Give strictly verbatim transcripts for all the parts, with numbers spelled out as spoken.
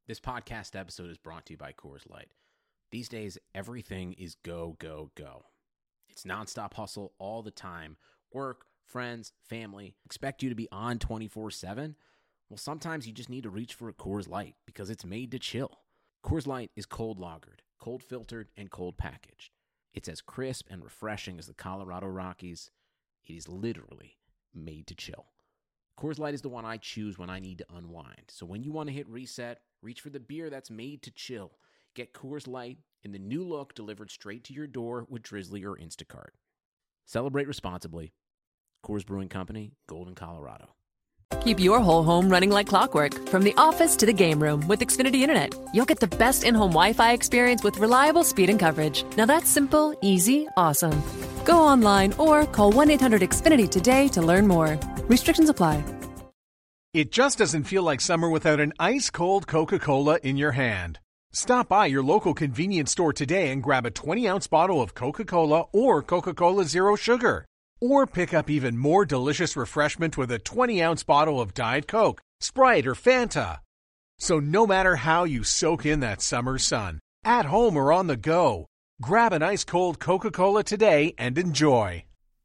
This podcast episode is brought to you by Coors Light. These days, everything is go, go, go. It's nonstop hustle all the time. Work, friends, family, expect you to be on twenty-four seven. Well, sometimes you just need to reach for a Coors Light because it's made to chill. Coors Light is cold lagered, cold filtered, and cold packaged. It's as crisp and refreshing as the Colorado Rockies. It is literally made to chill. Coors Light is the one I choose when I need to unwind. So when you want to hit reset, reach for the beer that's made to chill. Get Coors Light in the new look delivered straight to your door with Drizzly or Instacart. Celebrate responsibly. Coors Brewing Company, Golden, Colorado. Keep your whole home running like clockwork, from the office to the game room with Xfinity Internet. You'll get the best in-home Wi-Fi experience with reliable speed and coverage. Now that's simple, easy, awesome. Go online or call one eight hundred X Finity today to learn more. Restrictions apply. It just doesn't feel like summer without an ice-cold Coca-Cola in your hand. Stop by your local convenience store today and grab a twenty-ounce bottle of Coca-Cola or Coca-Cola Zero Sugar. Or pick up even more delicious refreshment with a twenty-ounce bottle of Diet Coke, Sprite, or Fanta. So no matter how you soak in that summer sun, at home or on the go, grab an ice-cold Coca-Cola today and enjoy.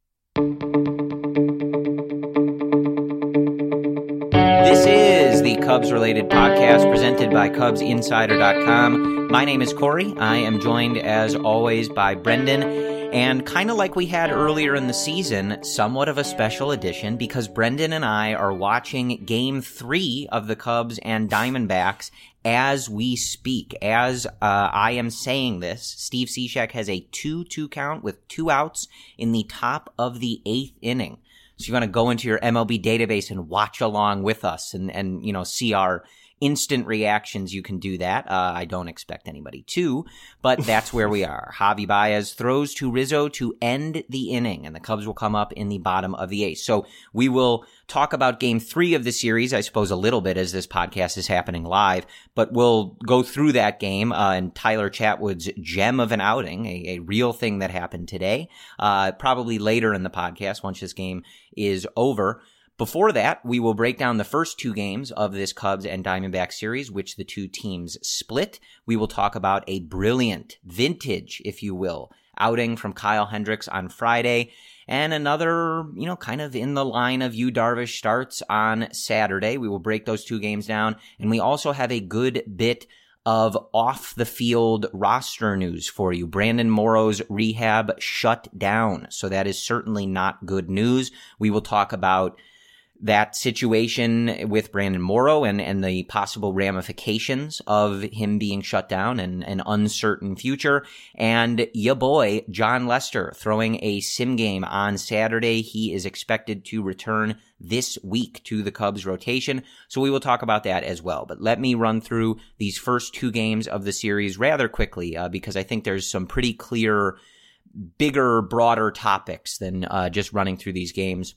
This is the Cubs-related podcast presented by Cubs Insider dot com. My name is Corey. I am joined, as always, by Brendan. And kind of like we had earlier in the season, somewhat of a special edition because Brendan and I are watching Game three of the Cubs and Diamondbacks as we speak. As uh, I am saying this, Steve Cishek has a two two count with two outs in the top of the eighth inning. So you want to go into your M L B database and watch along with us and, and you know, see our instant reactions. You can do that. Uh, I don't expect anybody to, but that's where we are. Javi Baez throws to Rizzo to end the inning, and the Cubs will come up in the bottom of the eighth. So we will talk about game three of the series, I suppose, a little bit as this podcast is happening live, but we'll go through that game uh, and Tyler Chatwood's gem of an outing, a, a real thing that happened today, uh, probably later in the podcast once this game is over. Before that, we will break down the first two games of this Cubs and Diamondbacks series, which the two teams split. We will talk about a brilliant, vintage, if you will, outing from Kyle Hendricks on Friday, and another, you know, kind of in the line of Yu Darvish starts on Saturday. We will break those two games down, and we also have a good bit of off-the-field roster news for you. Brandon Morrow's rehab shut down, so that is certainly not good news. We will talk about that situation with Brandon Morrow and, and the possible ramifications of him being shut down and an uncertain future. And ya boy, Jon Lester, throwing a sim game on Saturday. He is expected to return this week to the Cubs rotation. So we will talk about that as well. But let me run through these first two games of the series rather quickly uh, because I think there's some pretty clear, bigger, broader topics than uh, just running through these games.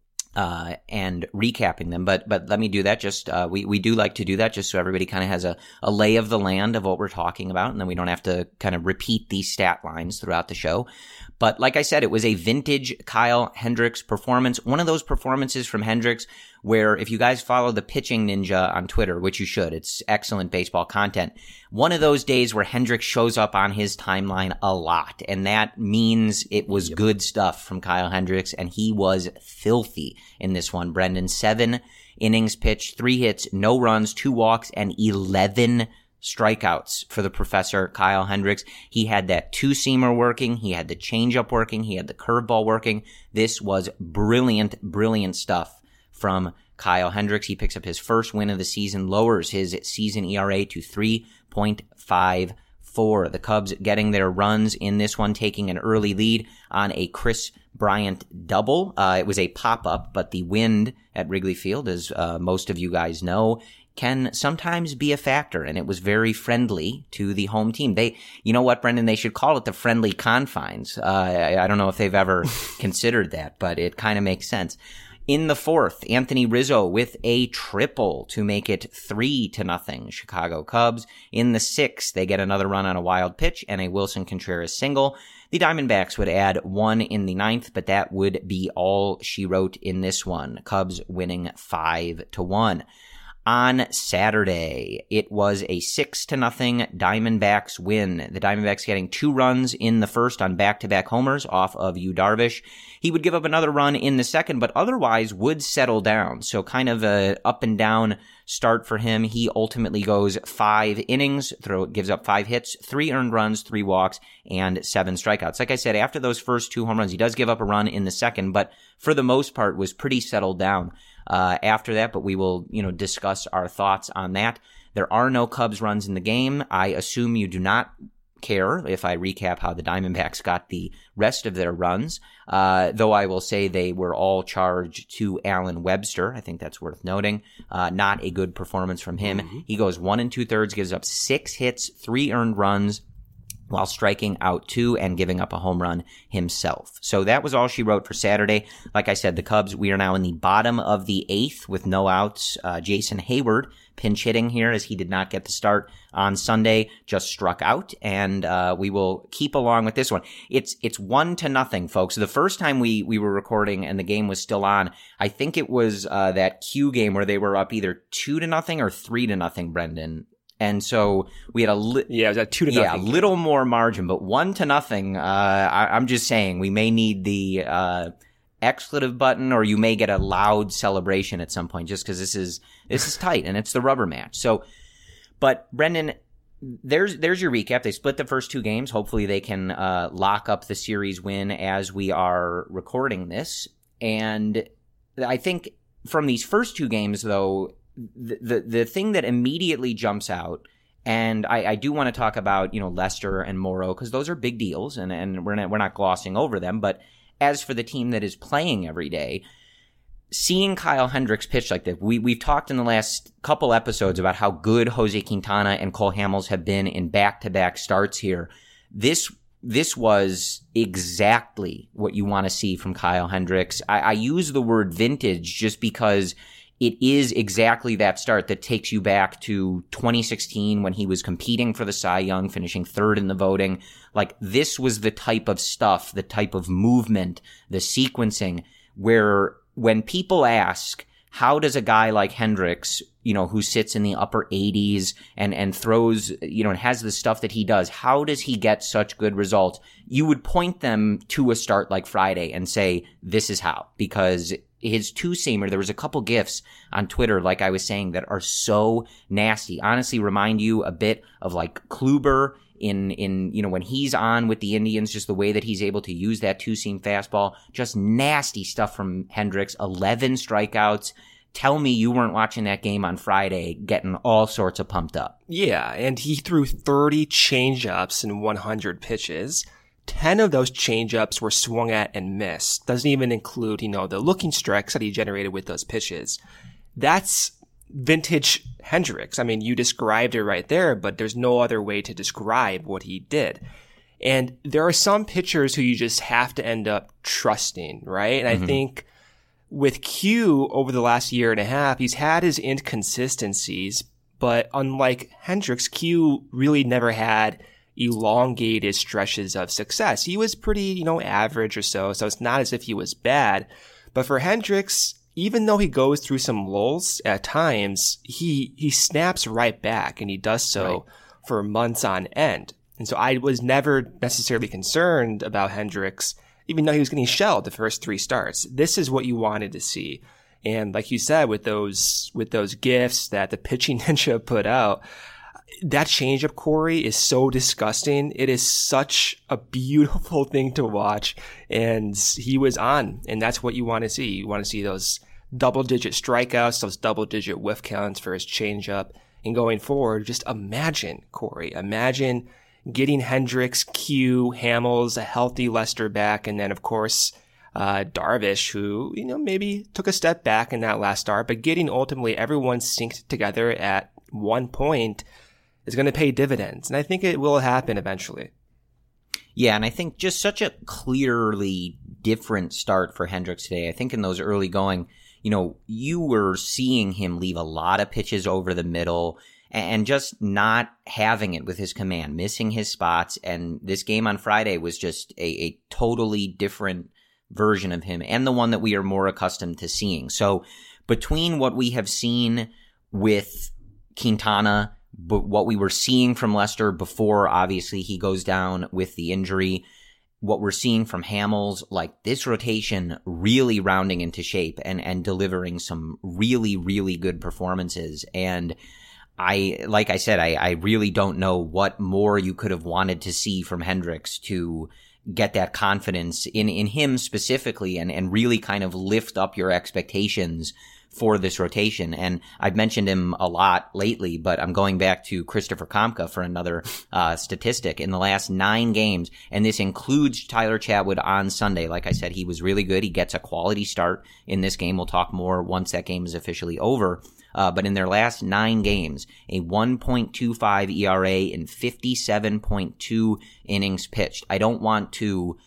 Uh, and recapping them, but but let me do that. Just uh, we we do like to do that, just so everybody kind of has a, a lay of the land of what we're talking about, and then we don't have to kind of repeat these stat lines throughout the show. But like I said, it was a vintage Kyle Hendricks performance. One of those performances from Hendricks where, if you guys follow the Pitching Ninja on Twitter, which you should, it's excellent baseball content. One of those days where Hendricks shows up on his timeline a lot, and that means it was yep. good stuff from Kyle Hendricks, and he was filthy in this one. Brendan, seven innings pitched, three hits, no runs, two walks, and eleven strikeouts for the professor, Kyle Hendricks. He had that two-seamer working. He had the changeup working. He had the curveball working. This was brilliant, brilliant stuff from Kyle Hendricks. He picks up his first win of the season, lowers his season E R A to three point five four. The Cubs getting their runs in this one, taking an early lead on a Chris Bryant double. Uh, it was a pop-up, but the wind at Wrigley Field, as uh, most of you guys know, can sometimes be a factor, and it was very friendly to the home team. They, you know what, Brendan, they should call it the friendly confines. Uh, I, I don't know if they've ever considered that, but it kind of makes sense. In the fourth, Anthony Rizzo with a triple to make it three to nothing Chicago Cubs. In the sixth, they get another run on a wild pitch and a Wilson Contreras single. The Diamondbacks would add one in the ninth, but that would be all she wrote in this one. Cubs winning five to one. On Saturday, it was a six to nothing Diamondbacks win. The Diamondbacks getting two runs in the first on back-to-back homers off of Yu Darvish. He would give up another run in the second, but otherwise would settle down. So kind of a up and down start for him. He ultimately goes five innings, throw gives up five hits, three earned runs, three walks, and seven strikeouts. Like I said, after those first two home runs, he does give up a run in the second, but for the most part was pretty settled down uh, after that. But we will, you know, discuss our thoughts on that. There are no Cubs runs in the game. I assume you do not care if I recap how the Diamondbacks got the rest of their runs, uh, though I will say they were all charged to Alan Webster. I think that's worth noting. Uh, not a good performance from him. Mm-hmm. He goes one and two thirds, gives up six hits, three earned runs, while striking out two and giving up a home run himself. So that was all she wrote for Saturday. Like I said, the Cubs, we are now in the bottom of the eighth with no outs. Uh, Jason Hayward pinch hitting here as he did not get the start on Sunday, just struck out, and uh, we will keep along with this one. It's it's one to nothing, folks. The first time we we were recording and the game was still on, I think it was uh, that Q game where they were up either two to nothing or three to nothing, Brendan. And so we had a li- yeah, it was at two to yeah, nothing. a little more margin, but one to nothing. Uh, I, I'm just saying we may need the uh, expletive button, or you may get a loud celebration at some point, just because this is this is tight and it's the rubber match. So, but Brendan, there's there's your recap. They split the first two games. Hopefully, they can uh, lock up the series win as we are recording this. And I think from these first two games, though, The, the the thing that immediately jumps out, and I, I do want to talk about, you know, Lester and Morrow, because those are big deals, and, and we're not we're not glossing over them. But as for the team that is playing every day, seeing Kyle Hendricks pitch like that, we we've talked in the last couple episodes about how good Jose Quintana and Cole Hamels have been in back to back starts here. This this was exactly what you want to see from Kyle Hendricks. I, I use the word vintage just because it is exactly that start that takes you back to twenty sixteen when he was competing for the Cy Young, finishing third in the voting. Like, this was the type of stuff, the type of movement, the sequencing, where when people ask, how does a guy like Hendricks, you know, who sits in the upper eighties and, and throws, you know, and has the stuff that he does, how does he get such good results? You would point them to a start like Friday and say, this is how, because his two-seamer, there was a couple gifs on Twitter, like I was saying, that are so nasty. Honestly, remind you a bit of like Kluber in, in, you know, when he's on with the Indians, just the way that he's able to use that two-seam fastball. Just nasty stuff from Hendricks. eleven strikeouts. Tell me you weren't watching that game on Friday getting all sorts of pumped up. Yeah, and he threw thirty changeups in one hundred pitches. ten of those changeups were swung at and missed. Doesn't even include, you know, the looking strikes that he generated with those pitches. That's vintage Hendricks. I mean, you described it right there, but there's no other way to describe what he did. And there are some pitchers who you just have to end up trusting, right? And mm-hmm. I think with Q over the last year and a half, he's had his inconsistencies, but unlike Hendricks, Q really never had elongated stretches of success. He was pretty, you know, average or so, so it's not as if he was bad. But for Hendricks, even though he goes through some lulls at times, he he snaps right back, and he does so right. for months on end. And so I was never necessarily concerned about Hendricks, even though he was getting shelled the first three starts. This is what you wanted to see. And like you said, with those with those gifts that the pitching ninja put out, that changeup, Corey, is so disgusting. It is such a beautiful thing to watch. And he was on, and that's what you want to see. You want to see those double-digit strikeouts, those double-digit whiff counts for his changeup. And going forward, just imagine, Corey, imagine getting Hendricks, Q, Hamels, a healthy Lester back, and then, of course, uh, Darvish, who, you know, maybe took a step back in that last start, but getting ultimately everyone synced together at one point is going to pay dividends. And I think it will happen eventually. Yeah, and I think just such a clearly different start for Hendricks today. I think in those early going, you know, you were seeing him leave a lot of pitches over the middle and just not having it with his command, missing his spots. And this game on Friday was just a, a totally different version of him, and the one that we are more accustomed to seeing. So between what we have seen with Quintana, but what we were seeing from Lester before, obviously, he goes down with the injury. What we're seeing from Hamels, like this rotation really rounding into shape and, and delivering some really, really good performances. And I, like I said, I, I really don't know what more you could have wanted to see from Hendricks to get that confidence in, in him specifically and, and really kind of lift up your expectations for this rotation. And I've mentioned him a lot lately, but I'm going back to Christopher Kamka for another uh, statistic. In the last nine games, and this includes Tyler Chatwood on Sunday, like I said, he was really good. He gets a quality start in this game. We'll talk more once that game is officially over. Uh, but in their last nine games, a one point two five E R A in fifty-seven point two innings pitched. I don't want to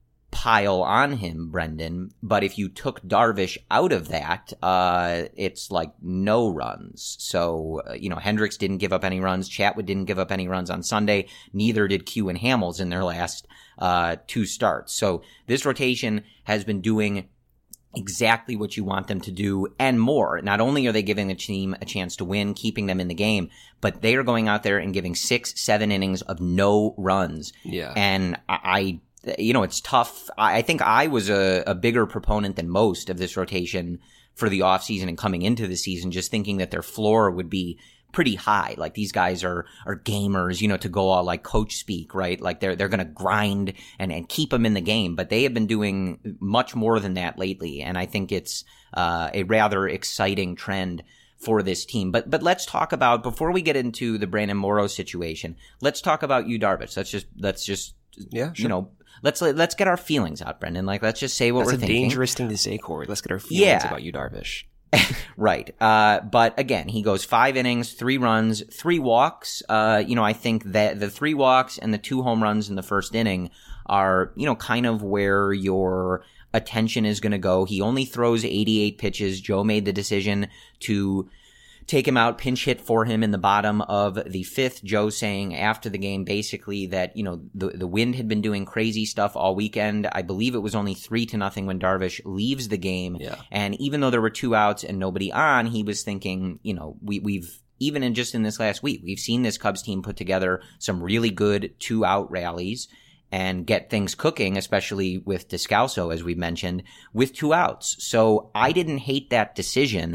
pile on him, Brendan, but if you took Darvish out of that, uh, it's like no runs. So, uh, you know, Hendricks didn't give up any runs. Chatwood didn't give up any runs on Sunday. Neither did Q and Hamels in their last uh, two starts. So this rotation has been doing exactly what you want them to do and more. Not only are they giving the team a chance to win, keeping them in the game, but they are going out there and giving six, seven innings of no runs. Yeah. And I, you know, it's tough. I think I was a, a bigger proponent than most of this rotation for the offseason and coming into the season, just thinking that their floor would be pretty high. Like these guys are, are gamers, you know, to go all like coach speak, right? Like they're, they're going to grind and, and keep them in the game, but they have been doing much more than that lately. And I think it's, uh, a rather exciting trend for this team. But, but let's talk about, before we get into the Brandon Morrow situation, let's talk about Yu Darvish. Let's just, let's just, yeah, sure. you know, let's, let's get our feelings out, Brendan. Like, let's just say what That's we're a thinking. Dangerous thing to say, Corey. Let's get our feelings yeah. about Yu Darvish. Right. Uh, but again, he goes five innings, three runs, three walks. Uh, you know, I think that the three walks and the two home runs in the first inning are, you know, kind of where your attention is going to go. He only throws eighty-eight pitches. Joe made the decision to take him out, pinch hit for him in the bottom of the fifth. Joe saying after the game basically that, you know, the the wind had been doing crazy stuff all weekend. I believe it was only three to nothing when Darvish leaves the game. Yeah. And even though there were two outs and nobody on, he was thinking, you know, we, we've, even in just in this last week, we've seen this Cubs team put together some really good two out rallies and get things cooking, especially with Descalso, as we mentioned, with two outs. So I didn't hate that decision.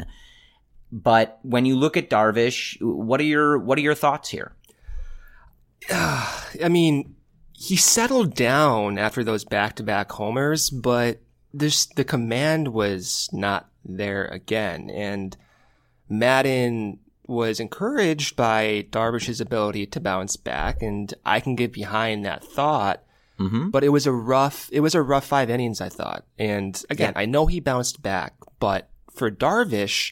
But when you look at Darvish, what are your what are your thoughts here? Uh, I mean, he settled down after those back-to-back homers, but this the command was not there again. And Madden was encouraged by Darvish's ability to bounce back, and I can get behind that thought. Mm-hmm. But it was a rough it was a rough five innings, I thought. And again, yeah. I know he bounced back, but for Darvish,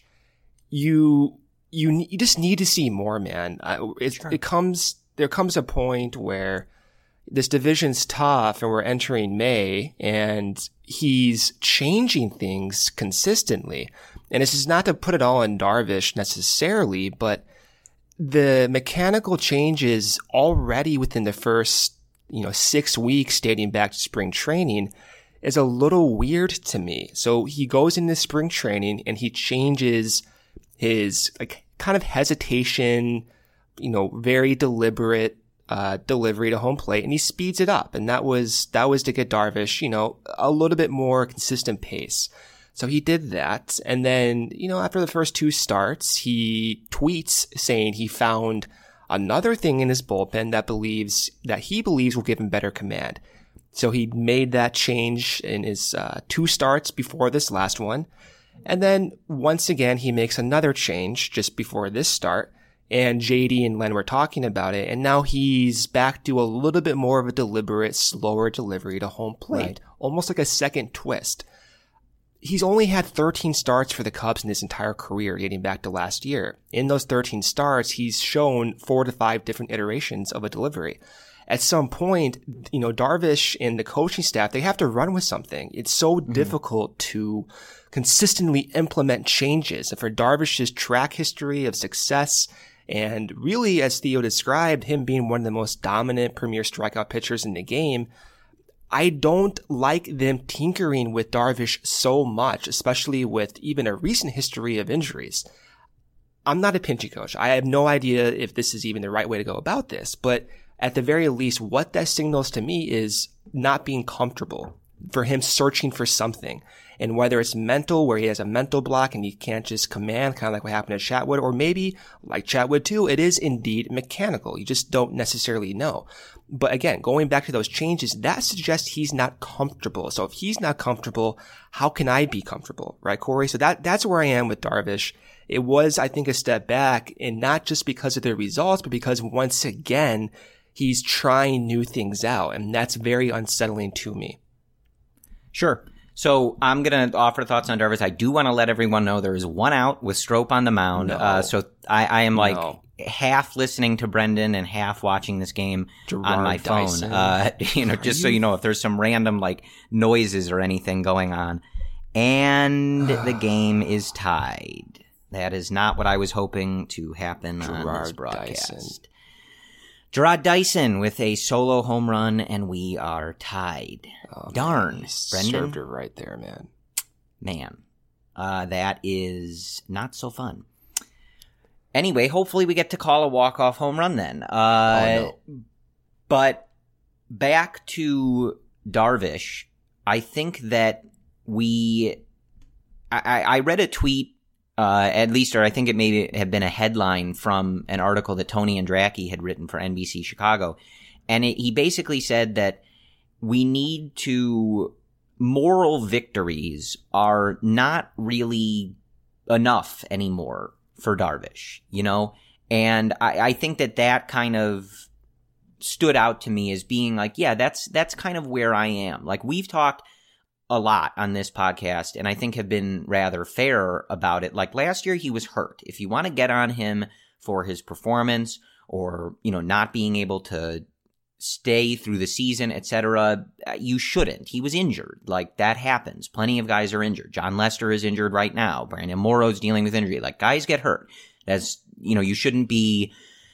You, you, you just need to see more, man. It, sure. it comes, there comes a point where this division's tough and we're entering May and he's changing things consistently. And this is not to put it all on Darvish necessarily, but the mechanical changes already within the first, you know, six weeks dating back to spring training is a little weird to me. So he goes into spring training and he changes his like kind of hesitation, you know, very deliberate uh delivery to home plate, and he speeds it up. And that was that was to get Darvish, you know, a little bit more consistent pace. So he did that. And then, you know, after the first two starts, he tweets saying he found another thing in his bullpen that believes that he believes will give him better command. So he made that change in his uh two starts before this last one. And then once again, he makes another change just before this start, and J D and Len were talking about it, and now he's back to a little bit more of a deliberate, slower delivery to home plate, right. Almost like a second twist. He's only had thirteen starts for the Cubs in his entire career, dating back to last year. In those thirteen starts, he's shown four to five different iterations of a delivery. At some point, you know, Darvish and the coaching staff, they have to run with something. It's so mm-hmm. difficult to consistently implement changes. And for Darvish's track history of success, and really, as Theo described, him being one of the most dominant premier strikeout pitchers in the game, I don't like them tinkering with Darvish so much, especially with even a recent history of injuries. I'm not a pitching coach. I have no idea if this is even the right way to go about this, but at the very least, what that signals to me is not being comfortable, for him searching for something. And whether it's mental, where he has a mental block and he can't just command, kind of like what happened to Chatwood, or maybe, like Chatwood too, it is indeed mechanical. You just don't necessarily know. But again, going back to those changes, that suggests he's not comfortable. So if he's not comfortable, how can I be comfortable? Right, Corey? So that, that's where I am with Darvish. It was, I think, a step back, and not just because of the results, but because once again, he's trying new things out, and that's very unsettling to me. Sure. So I'm going to offer thoughts on Darvish. I do want to let everyone know there is one out with Strop on the mound. No. Uh, so I, I am like No. half listening to Brendan and half watching this game Gerard on my phone. Dyson. Uh, you know, just so you know, if there's some random like noises or anything going on. And the game is tied. That is not what I was hoping to happen on this Gerard broadcast. Dyson. Gerard Dyson with a solo home run, and we are tied. Oh, Darn, man, he Brendan. served her right there, man. Man, uh, that is not so fun. Anyway, hopefully we get to call a walk-off home run then. Uh, oh, no. But back to Darvish, I think that we... I, I read a tweet, uh, at least, or I think it may have been a headline from an article that Tony Andracki had written for N B C Chicago. And it, he basically said that we need to... moral victories are not really enough anymore for Darvish, you know? And I, I think that that kind of stood out to me as being like, yeah, that's that's kind of where I am. Like, we've talked a lot on this podcast, and I think have been rather fair about it. Like, last year he was hurt. If you want to get on him for his performance or, you know, not being able to stay through the season, et cetera, you shouldn't. He was injured. Like, that happens. Plenty of guys are injured. John Lester is injured right now. Brandon Morrow's dealing with injury. Like, guys get hurt. That's, you know, you shouldn't be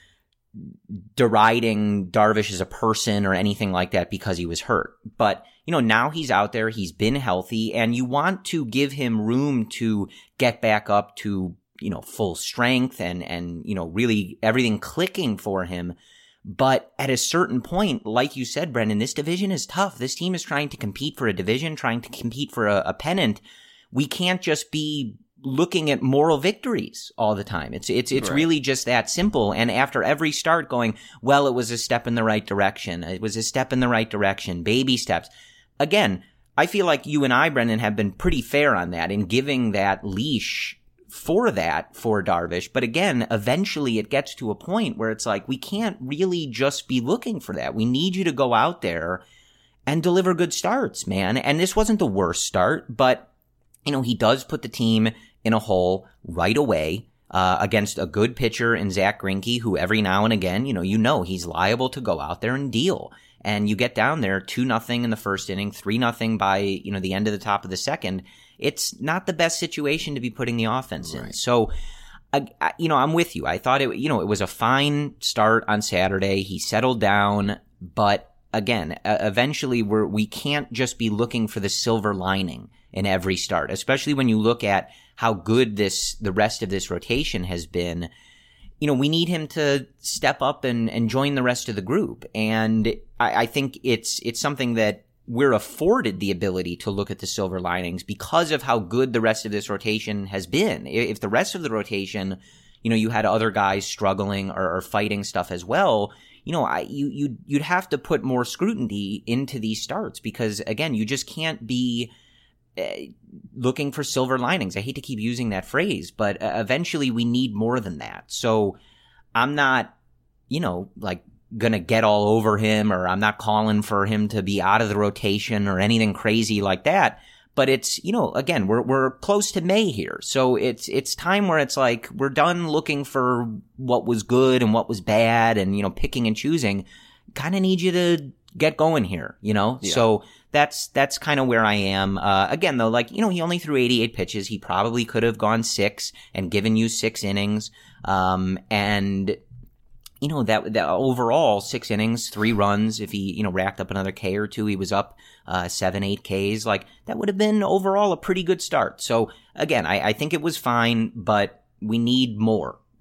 deriding Darvish as a person or anything like that because he was hurt. But, you know, now he's out there. He's been healthy, and you want to give him room to get back up to, you know, full strength and, and, you know, really everything clicking for him. But at a certain point, like you said, Brendan, this division is tough. This team is trying to compete for a division, trying to compete for a, a pennant. We can't just be looking at moral victories all the time. It's it's it's Right. really just that simple. And after every start going, well, it was a step in the right direction. It was a step in the right direction. Baby steps. Again, I feel like you and I, Brendan, have been pretty fair on that in giving that leash for that for Darvish. But again, eventually it gets to a point where it's like, we can't really just be looking for that. We need you to go out there and deliver good starts, man. And this wasn't the worst start, but, you know, he does put the team in a hole right away uh, against a good pitcher in Zach Greinke, who every now and again, you know, you know, he's liable to go out there and deal. And you get down there two nothing in the first inning, three nothing by, you know, the end of the top of the second. It's not the best situation to be putting the offense in. Right. So, I, I, you know, I'm with you. I thought it, you know, it was a fine start on Saturday. He settled down, but again, uh, eventually we're, we can't just be looking for the silver lining in every start, especially when you look at how good this, the rest of this rotation has been. You know, we need him to step up and, and join the rest of the group. And I, I think it's, it's something that we're afforded the ability to look at the silver linings because of how good the rest of this rotation has been. If the rest of the rotation, you know, you had other guys struggling or, or fighting stuff as well, you know, I, you, you, you'd have to put more scrutiny into these starts because, again, you just can't be uh, looking for silver linings. I hate to keep using that phrase, but uh, eventually we need more than that. So I'm not, you know, like, gonna get all over him, or I'm not calling for him to be out of the rotation or anything crazy like that. But it's, you know, again, we're we're close to May here. So it's it's time where it's like we're done looking for what was good and what was bad and, you know, picking and choosing. Kind of need you to get going here, you know? Yeah. So that's that's kind of where I am. Uh, again, though, like, you know, he only threw eighty-eight pitches. He probably could have gone six and given you six innings. Um, and you know, that, that overall six innings, three runs, if he, you know, racked up another K or two, he was up, uh, seven, eight Ks. Like, that would have been overall a pretty good start. So again, I, I think it was fine, but we need more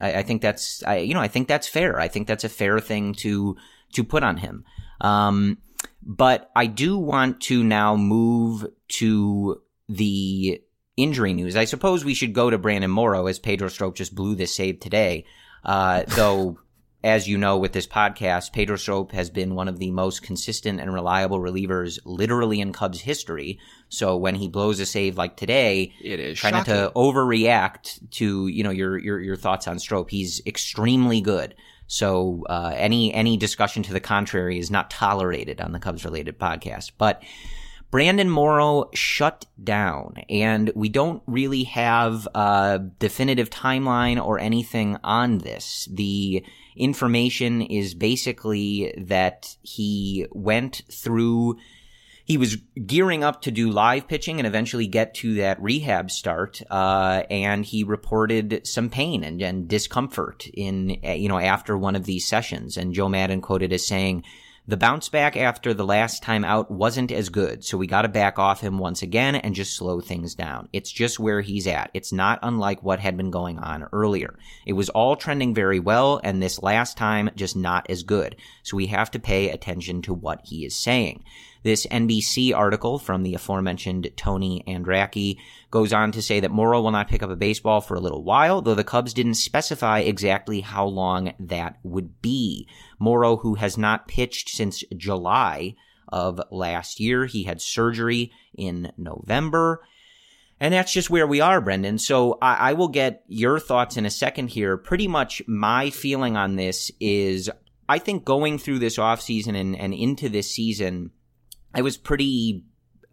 I, I think that's, I, you know, I think that's fair. I think that's a fair thing to, to put on him. Um, but I do want to now move to the injury news. I suppose we should go to Brandon Morrow, as Pedro Strop just blew this save today. Uh, though, as you know, with this podcast, Pedro Strop has been one of the most consistent and reliable relievers literally in Cubs history. So when he blows a save like today, it is try shocking. not to overreact to, you know, your, your, your thoughts on Strop. He's extremely good. So, uh, any, any discussion to the contrary is not tolerated on the Cubs related podcast. But Brandon Morrow shut down, and we don't really have a definitive timeline or anything on this. The information is basically that he went through, he was gearing up to do live pitching and eventually get to that rehab start, uh, and he reported some pain and, and discomfort in, you know, after one of these sessions. And Joe Maddon quoted as saying, "The bounce back after the last time out wasn't as good, so we got to back off him once again and just slow things down. It's just where he's at. It's not unlike what had been going on earlier. It was all trending very well, and this last time just not as good. So we have to pay attention to what he is saying." This N B C article from the aforementioned Tony Andracki goes on to say that Morrow will not pick up a baseball for a little while, though the Cubs didn't specify exactly how long that would be. Morrow, who has not pitched since July of last year, he had surgery in November. And that's just where we are, Brendan. So I, I will get your thoughts in a second here. Pretty much my feeling on this is, I think going through this offseason and, and into this season, I was pretty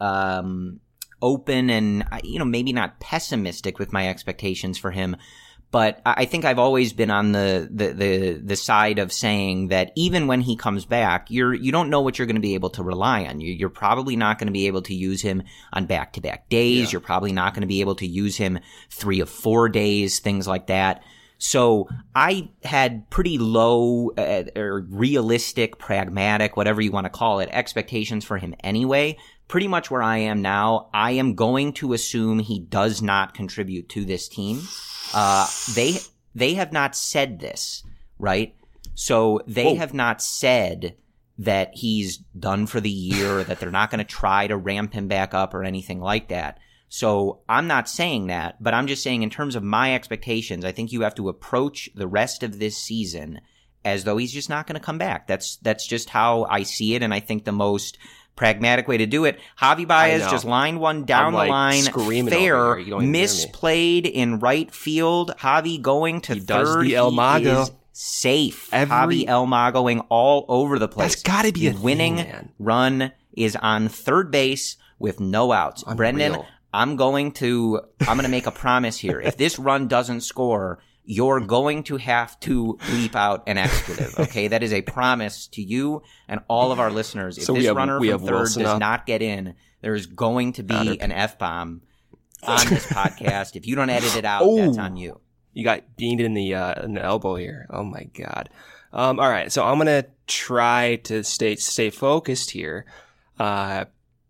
um, open and, you know, maybe not pessimistic with my expectations for him. But I think I've always been on the, the, the, the side of saying that even when he comes back, you're, you don't know what you're going to be able to rely on. You, you're probably not going to be able to use him on back-to-back days. Yeah. You're probably not going to be able to use him three or four days, things like that. So I had pretty low uh, or realistic, pragmatic, whatever you want to call it, expectations for him anyway. Pretty much where I am now, I am going to assume he does not contribute to this team. Uh, they they have not said this, right? So they Whoa. have not said that he's done for the year, or that they're not going to try to ramp him back up or anything like that. So I'm not saying that, but I'm just saying in terms of my expectations, I think you have to approach the rest of this season as though he's just not going to come back. That's that's just how I see it, and I think the most pragmatic way to do it. Javi Baez just lined one down I'm, like, the line, fair, misplayed in right field. Javi going to he third. Does the El Mago. Is safe. Every, Javi El Magoing all over the place. That's got to be the a winning thing, man. Run is on third base with no outs. Unreal. Brendan, I'm going to, I'm going to make a promise here. If this run doesn't score, you're going to have to bleep out an expletive, okay? That is a promise to you and all of our listeners. If so this have, runner from third Wilson does up. not get in, there is going to be an F-bomb on this podcast. If you don't edit it out, oh, that's on you. You got beamed in the, uh, in the elbow here. Oh, my God. Um, all right, so I'm going to try to stay stay focused here. Uh,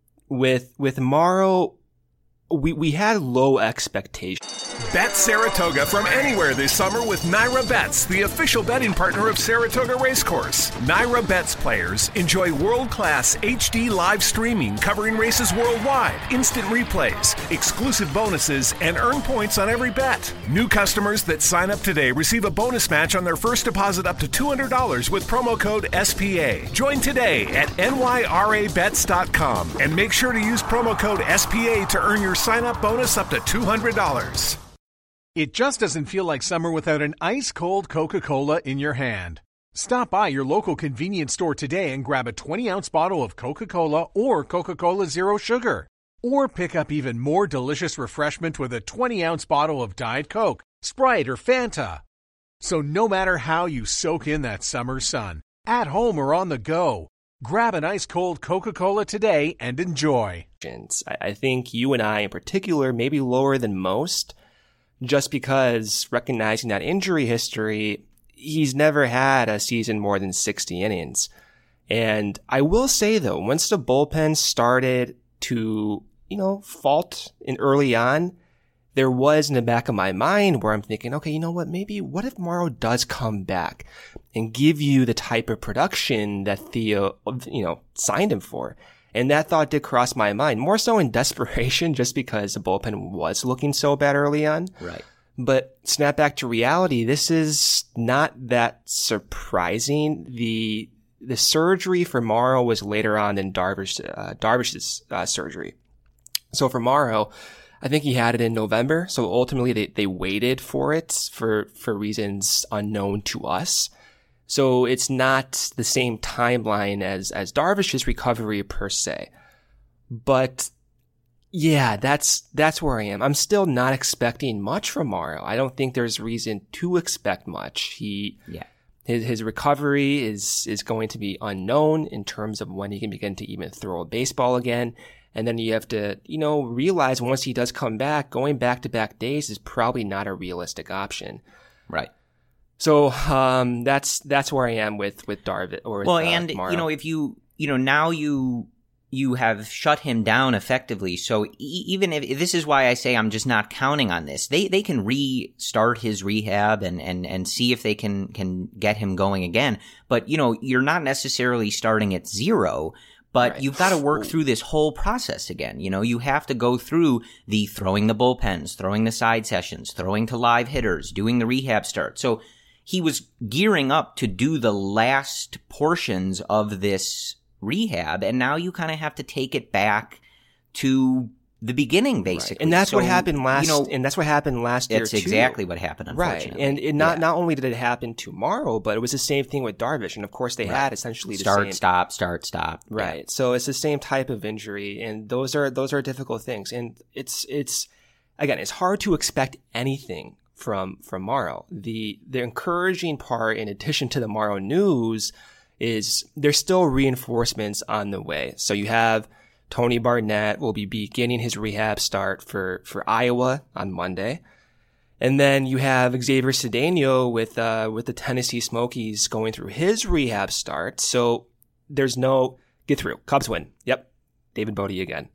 with with Morrow, we, we had low expectations. Bet Saratoga from anywhere this summer with Naira Bets, the official betting partner of Saratoga Racecourse. Naira Bets players enjoy world-class H D live streaming covering races worldwide, instant replays, exclusive bonuses, and earn points on every bet. New customers that sign up today receive a bonus match on their first deposit up to two hundred dollars with promo code S P A. Join today at N Y R A bets dot com and make sure to use promo code S P A to earn your sign-up bonus up to two hundred dollars. It just doesn't feel like summer without an ice-cold Coca-Cola in your hand. Stop by your local convenience store today and grab a twenty-ounce bottle of Coca-Cola or Coca-Cola Zero Sugar. Or pick up even more delicious refreshment with a twenty-ounce bottle of Diet Coke, Sprite, or Fanta. So no matter how you soak in that summer sun, at home or on the go, grab an ice-cold Coca-Cola today and enjoy. I think you and I in particular may be lower than most, just because recognizing that injury history, he's never had a season more than sixty innings. And I will say, though, once the bullpen started to, you know, fault in early on, there was in the back of my mind where I'm thinking, okay, you know what? Maybe what if Morrow does come back and give you the type of production that Theo, you know, signed him for? And that thought did cross my mind, more so in desperation, just because the bullpen was looking so bad early on. Right. But snap back to reality. This is not that surprising. The the surgery for Morrow was later on than Darvish, uh, Darvish's uh, surgery. So for Morrow, I think he had it in November. So ultimately they, they waited for it for, for reasons unknown to us. So it's not the same timeline as, as Darvish's recovery per se. But yeah, that's, that's where I am. I'm still not expecting much from Morrow. I don't think there's reason to expect much. He, yeah. His, his recovery is, is going to be unknown in terms of when he can begin to even throw a baseball again. And then you have to, you know, realize once he does come back, going back to back days is probably not a realistic option. Right. So, um, that's, that's where I am with, with Darvish or with, well, uh, and, Morrow. you know, if you, you know, now you, you have shut him down effectively. So e- even if this is why I say I'm just not counting on this, they, they can restart his rehab and, and, and see if they can, can get him going again. But, you know, you're not necessarily starting at zero. But right. You've got to work through this whole process again. You know, you have to go through the throwing the bullpens, throwing the side sessions, throwing to live hitters, doing the rehab start. So he was gearing up to do the last portions of this rehab, and now you kind of have to take it back to the beginning, basically. Right. And that's so, what happened last. You know, and that's what happened last year. That's too. exactly what happened. Unfortunately, right? And it not yeah. not only did it happen to Morrow, but it was the same thing with Darvish. And of course, they right. had essentially the start, same stop, start, stop. Right. Yeah. So it's the same type of injury, and those are those are difficult things. And it's it's again, it's hard to expect anything from from Morrow. The the encouraging part, in addition to the Morrow news, is there's still reinforcements on the way. So you have Tony Barnett will be beginning his rehab start for, for Iowa on Monday. And then you have Xavier Cedeno with, uh, with the Tennessee Smokies going through his rehab start. So there's no get through. Cubs win. Yep. David Bote again.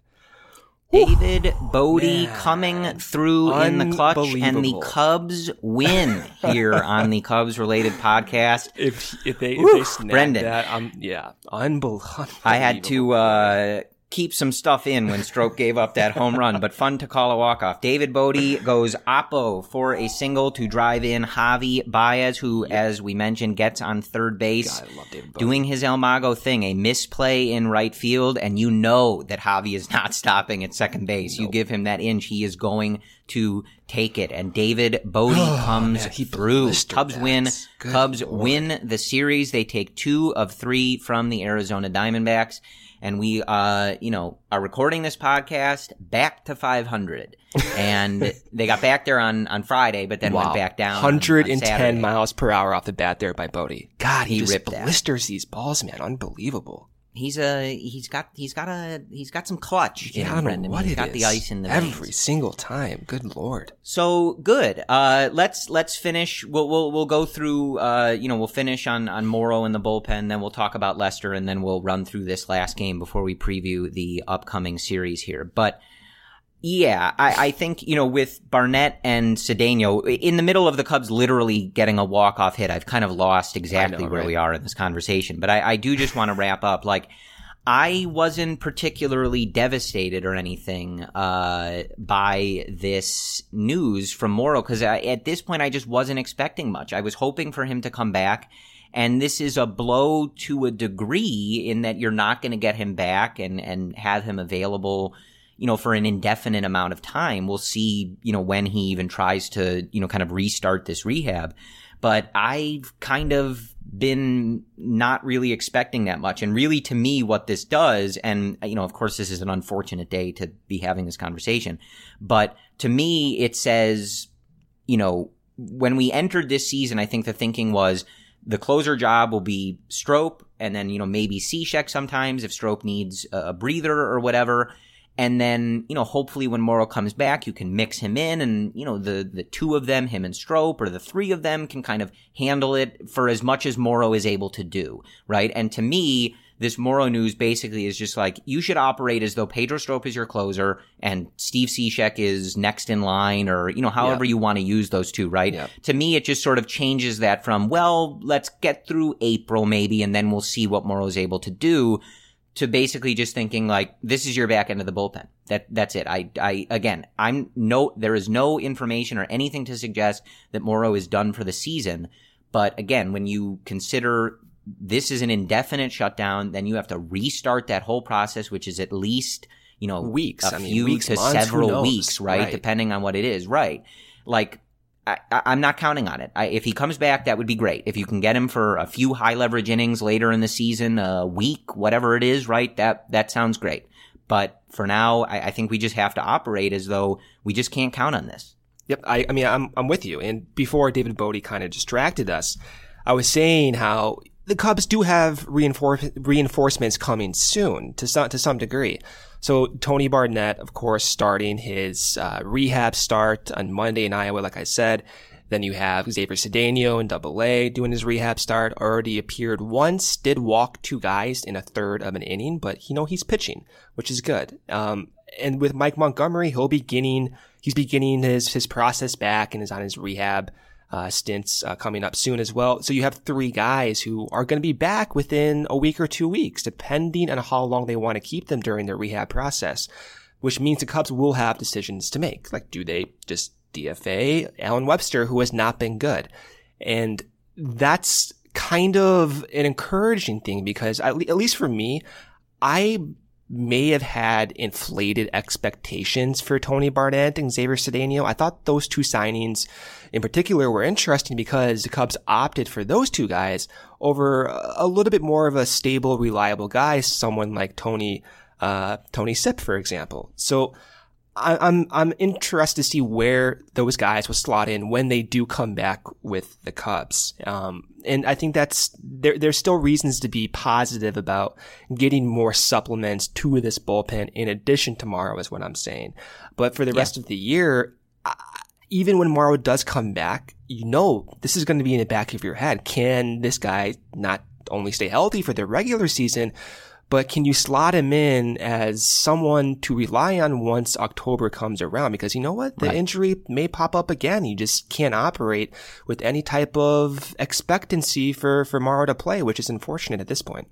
David Bote Man. coming through in the clutch, and the Cubs win here on the Cubs related podcast. If, if they, if they snap Brendan. that, um, yeah, unbelievable. I had to, uh, keep some stuff in when Stroke gave up that home run, but fun to call a walk-off. David Bote goes oppo for a single to drive in Javi Baez, who, yep. as we mentioned, gets on third base, God, I love David Bote. Doing his El Mago thing, a misplay in right field, and you know that Javi is not stopping at second base. Nope. You give him that inch, he is going to take it, and David Bote comes man, through. Cubs that. win. Good Cubs Lord. win the series. They take two of three from the Arizona Diamondbacks. And we, uh, you know, are recording this podcast back to five hundred. And they got back there on, on Friday, but then wow. went back down. one hundred ten on, on miles per hour off the bat there by Bote. God, he, he just ripped that. blisters these balls, man. Unbelievable. He's a he's got he's got a he's got some clutch. Yeah, in I don't Brendan. know what he's it got is. the ice in the every veins. single time. Good Lord. So good. Uh, let's let's finish. We'll we'll we'll go through. Uh, you know, we'll finish on on Morrow in the bullpen. Then we'll talk about Lester, and then we'll run through this last game before we preview the upcoming series here. But yeah, I, I think, you know, with Barnett and Cedeno in the middle of the Cubs literally getting a walk-off hit, I've kind of lost exactly know, where right? we are in this conversation. But I, I do just want to wrap up. Like, I wasn't particularly devastated or anything uh by this news from Morrow, because at this point I just wasn't expecting much. I was hoping for him to come back. And this is a blow to a degree in that you're not going to get him back and, and have him available, you know, for an indefinite amount of time. We'll see, you know, when he even tries to, you know, kind of restart this rehab. But I've kind of been not really expecting that much. And really, to me, what this does, and, you know, of course, this is an unfortunate day to be having this conversation, but to me, it says, you know, when we entered this season, I think the thinking was the closer job will be Strop, and then, you know, maybe Cishek sometimes if Strop needs a breather or whatever. And then, you know, hopefully when Morrow comes back, you can mix him in and, you know, the, the two of them, him and Strop, or the three of them can kind of handle it for as much as Morrow is able to do, right? And to me, this Morrow news basically is just like, you should operate as though Pedro Strop is your closer and Steve Cishek is next in line, or, you know, however yep. you want to use those two, right? Yep. To me, it just sort of changes that from, well, let's get through April maybe, and then we'll see what Morrow is able to do, to basically just thinking like, this is your back end of the bullpen. That, that's it. I, I, again, I'm no, there is no information or anything to suggest that Morrow is done for the season. But again, when you consider this is an indefinite shutdown, then you have to restart that whole process, which is at least, you know, weeks, a I mean, few weeks, to months, several weeks, right? right? Depending on what it is, right? Like, I, I'm not counting on it. I, if he comes back, that would be great. If you can get him for a few high leverage innings later in the season, a week, whatever it is, right? That that sounds great. But for now, I, I think we just have to operate as though we just can't count on this. Yep. I, I mean, I'm I'm with you. And before David Bote kind of distracted us, I was saying how the Cubs do have reinforce, reinforcements coming soon to some to some degree. So Tony Barnett, of course, starting his uh, rehab start on Monday in Iowa, like I said. Then you have Xavier Cedeno in Double A doing his rehab start. Already appeared once, did walk two guys in a third of an inning, but you know he's pitching, which is good. Um, and with Mike Montgomery, he'll be beginning he's beginning his his process back and is on his rehab uh, stints uh, coming up soon as well. So you have three guys who are going to be back within a week or two weeks, depending on how long they want to keep them during their rehab process, which means the Cubs will have decisions to make. Like, do they just D F A Alan Webster, who has not been good? And that's kind of an encouraging thing because at, le- at least for me, I may have had inflated expectations for Tony Barnett and Xavier Cedeno. I thought those two signings in particular were interesting because the Cubs opted for those two guys over a little bit more of a stable, reliable guy, someone like Tony, uh, Tony Sipp, for example. So I, I'm, I'm interested to see where those guys will slot in when they do come back with the Cubs. Um, and I think that's, there, there's still reasons to be positive about getting more supplements to this bullpen in addition to Morrow is what I'm saying. But for the yeah. rest of the year, I, even when Morrow does come back, you know, this is going to be in the back of your head. Can this guy not only stay healthy for the regular season, but can you slot him in as someone to rely on once October comes around? Because you know what? The right. injury may pop up again. You just can't operate with any type of expectancy for, for Morrow to play, which is unfortunate at this point.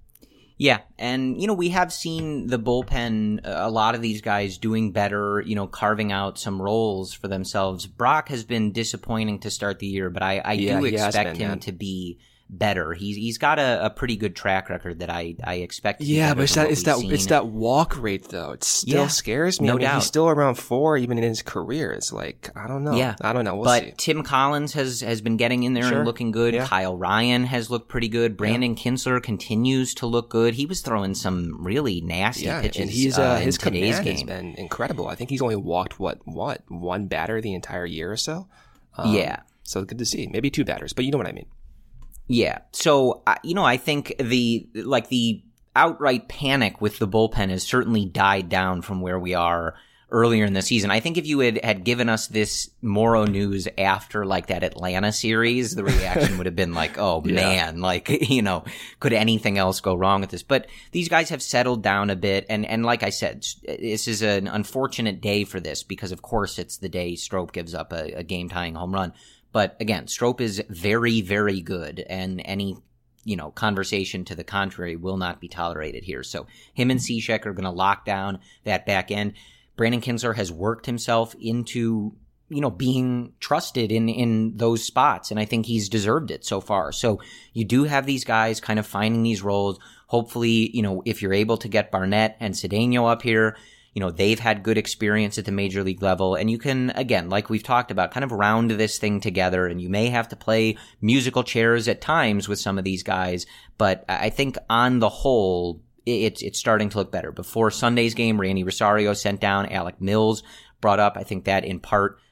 Yeah, and, you know, we have seen the bullpen, a lot of these guys doing better, you know, carving out some roles for themselves. Brock has been disappointing to start the year, but I, I yeah, do expect been, him man. to be better. He's he's got a, a pretty good track record that I, I expect to be Yeah, better but it's that it's that seen. it's that walk rate though. It still yeah, scares me. No I mean, doubt. He's still around four even in his career. It's like I don't know. Yeah. I don't know. We'll but see. Tim Collins has, has been getting in there Sure. and looking good. Yeah. Kyle Ryan has looked pretty good. Brandon yeah. Kinsler continues to look good. He was throwing some really nasty yeah, pitches and he's, uh, uh, his in today's command game. has been incredible. I think he's only walked what what one batter the entire year or so. Um, yeah. So good to see. Maybe two batters, but you know what I mean. Yeah. So, uh, you know, I think the, like the outright panic with the bullpen has certainly died down from where we are earlier in the season. I think if you had, had given us this Morrow news after like that Atlanta series, the reaction would have been like, oh yeah. man, like, you know, could anything else go wrong with this? But these guys have settled down a bit. And, and like I said, this is an unfortunate day for this because of course it's the day Strop gives up a, a game tying home run. But again, Strop is very, very good, and any, you know, conversation to the contrary will not be tolerated here. So him and Cishek are going to lock down that back end. Brandon Kinsler has worked himself into, you know, being trusted in, in those spots, and I think he's deserved it so far. So you do have these guys kind of finding these roles. Hopefully, you know, if you're able to get Barnett and Cedeno up here, you know, they've had good experience at the major league level, and you can, again, like we've talked about, kind of round this thing together, and you may have to play musical chairs at times with some of these guys, but I think on the whole, it's it's starting to look better. Before Sunday's game, Randy Rosario sent down, Alec Mills brought up. I think that in part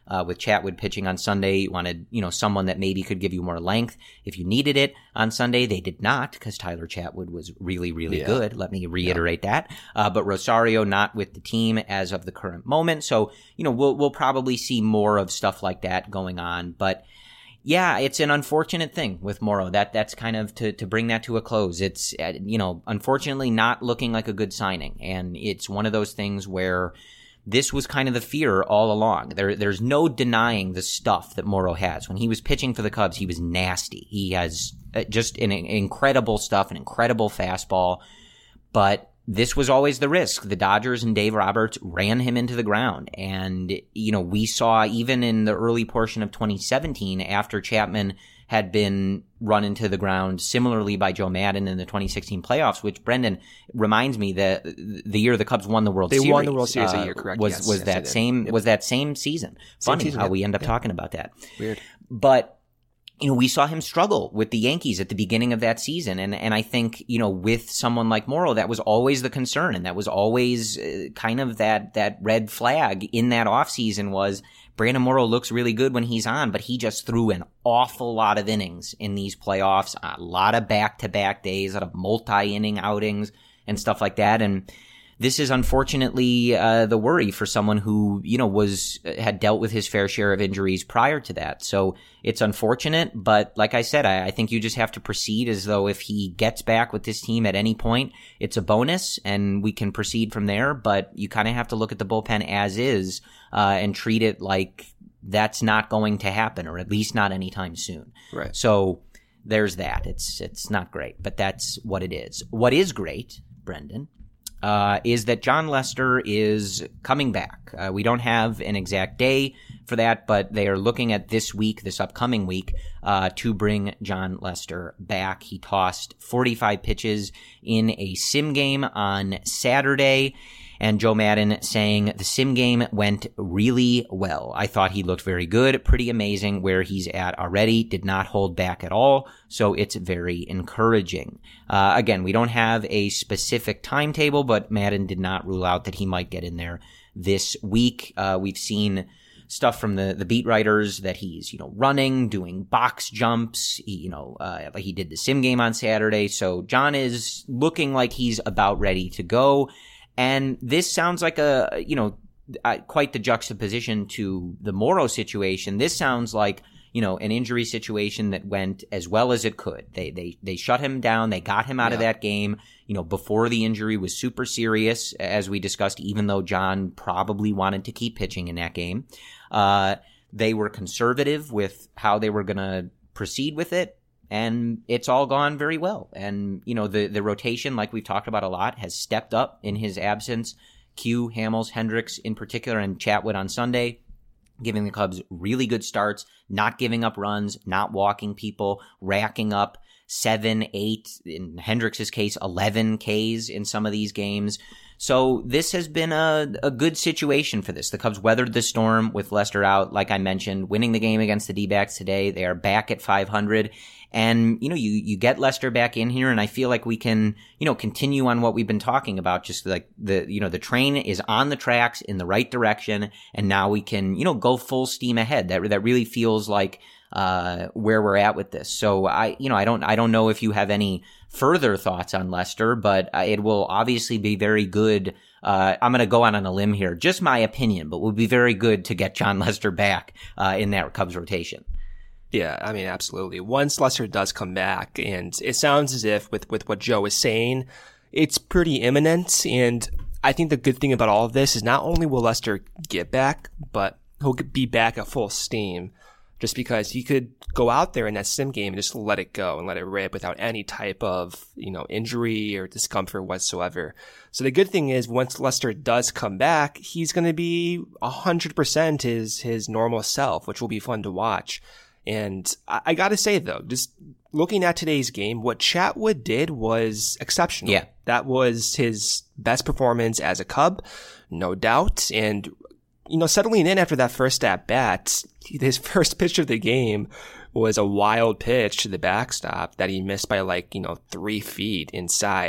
Uh, with Chatwood pitching on Sunday, you wanted, you know, someone that maybe could give you more length if you needed it on Sunday. They did not, because Tyler Chatwood was really, really yeah. good. Let me reiterate yeah. that. Uh, but Rosario not with the team as of the current moment. So, you know, we'll, we'll probably see more of stuff like that going on. But yeah, it's an unfortunate thing with Morrow. That that's kind of to, to bring that to a close. It's, you know, unfortunately not looking like a good signing. And it's one of those things where this was kind of the fear all along. There, there's no denying the stuff that Morrow has. When he was pitching for the Cubs, he was nasty. He has just an, an incredible stuff, an incredible fastball. But this was always the risk. The Dodgers and Dave Roberts ran him into the ground. And, you know, we saw even in the early portion of twenty seventeen, after Chapman had been run into the ground similarly by Joe Maddon in the twenty sixteen playoffs, which, Brendan, reminds me that the year the Cubs won the World they Series. They won the World Series uh, that year, correct? Was, yes, was yes, that same, yep. was that same season. Same Funny season, how yep. we end up yep. talking about that. Weird. But, you know, we saw him struggle with the Yankees at the beginning of that season. And, and I think, you know, with someone like Morrow, that was always the concern. And that was always uh, kind of that, that red flag in that offseason was Brandon Morrow looks really good when he's on, but he just threw an awful lot of innings in these playoffs, a lot of back-to-back days, a lot of multi-inning outings and stuff like that. And this is unfortunately uh, the worry for someone who, you know, was had dealt with his fair share of injuries prior to that. So it's unfortunate, but like I said, I, I think you just have to proceed as though if he gets back with this team at any point, it's a bonus and we can proceed from there. But you kind of have to look at the bullpen as is uh, and treat it like that's not going to happen, or at least not anytime soon. Right. So there's that. It's it's not great, but that's what it is. What is great, Brendan, Uh, is that Jon Lester is coming back. Uh, we don't have an exact day for that, but they are looking at this week, this upcoming week, uh, to bring Jon Lester back. He tossed forty-five pitches in a sim game on Saturday, and Joe Maddon saying the sim game went really well. I thought he looked very good, pretty amazing where he's at already, did not hold back at all, so it's very encouraging. Uh, again, we don't have a specific timetable, but Maddon did not rule out that he might get in there this week. Uh, we've seen stuff from the, the beat writers that he's, you know, running, doing box jumps, he, you know, uh, like he did the sim game on Saturday, so John is looking like he's about ready to go. And this sounds like a, you know, uh, quite the juxtaposition to the Morrow situation. This sounds like, you know, an injury situation that went as well as it could. They they they shut him down. They got him out yeah. of that game, you know, before the injury was super serious, as we discussed, even though John probably wanted to keep pitching in that game. Uh, they were conservative with how they were going to proceed with it. And it's all gone very well. And, you know, the, the rotation, like we've talked about a lot, has stepped up in his absence. Q, Hamels, Hendricks in particular, and Chatwood on Sunday, giving the Cubs really good starts, not giving up runs, not walking people, racking up seven, eight, in Hendricks' case, eleven Ks in some of these games. So this has been a, a good situation for this. The Cubs weathered the storm with Lester out, like I mentioned, winning the game against the D-backs today. They are back at five hundred. And, you know, you, you get Lester back in here, and I feel like we can, you know, continue on what we've been talking about. Just like the, you know, the train is on the tracks in the right direction, and now we can, you know, go full steam ahead. That, that really feels like, uh, where we're at with this. So I, you know, I don't, I don't know if you have any further thoughts on Lester, but it will obviously be very good. Uh, I'm going to go out on a limb here, just my opinion, but it would be very good to get Jon Lester back, uh, in that Cubs rotation. Yeah, I mean, absolutely. Once Lester does come back, and it sounds as if with, with what Joe is saying, it's pretty imminent. And I think the good thing about all of this is not only will Lester get back, but he'll be back at full steam, just because he could go out there in that sim game and just let it go and let it rip without any type of, you know, injury or discomfort whatsoever. So the good thing is once Lester does come back, he's going to be one hundred percent his, his normal self, which will be fun to watch. And I, I got to say, though, just looking at today's game, what Chatwood did was exceptional. Yeah. That was his best performance as a Cub, no doubt. And, you know, settling in after that first at-bat, his first pitch of the game was a wild pitch to the backstop that he missed by, like, you know, three feet inside.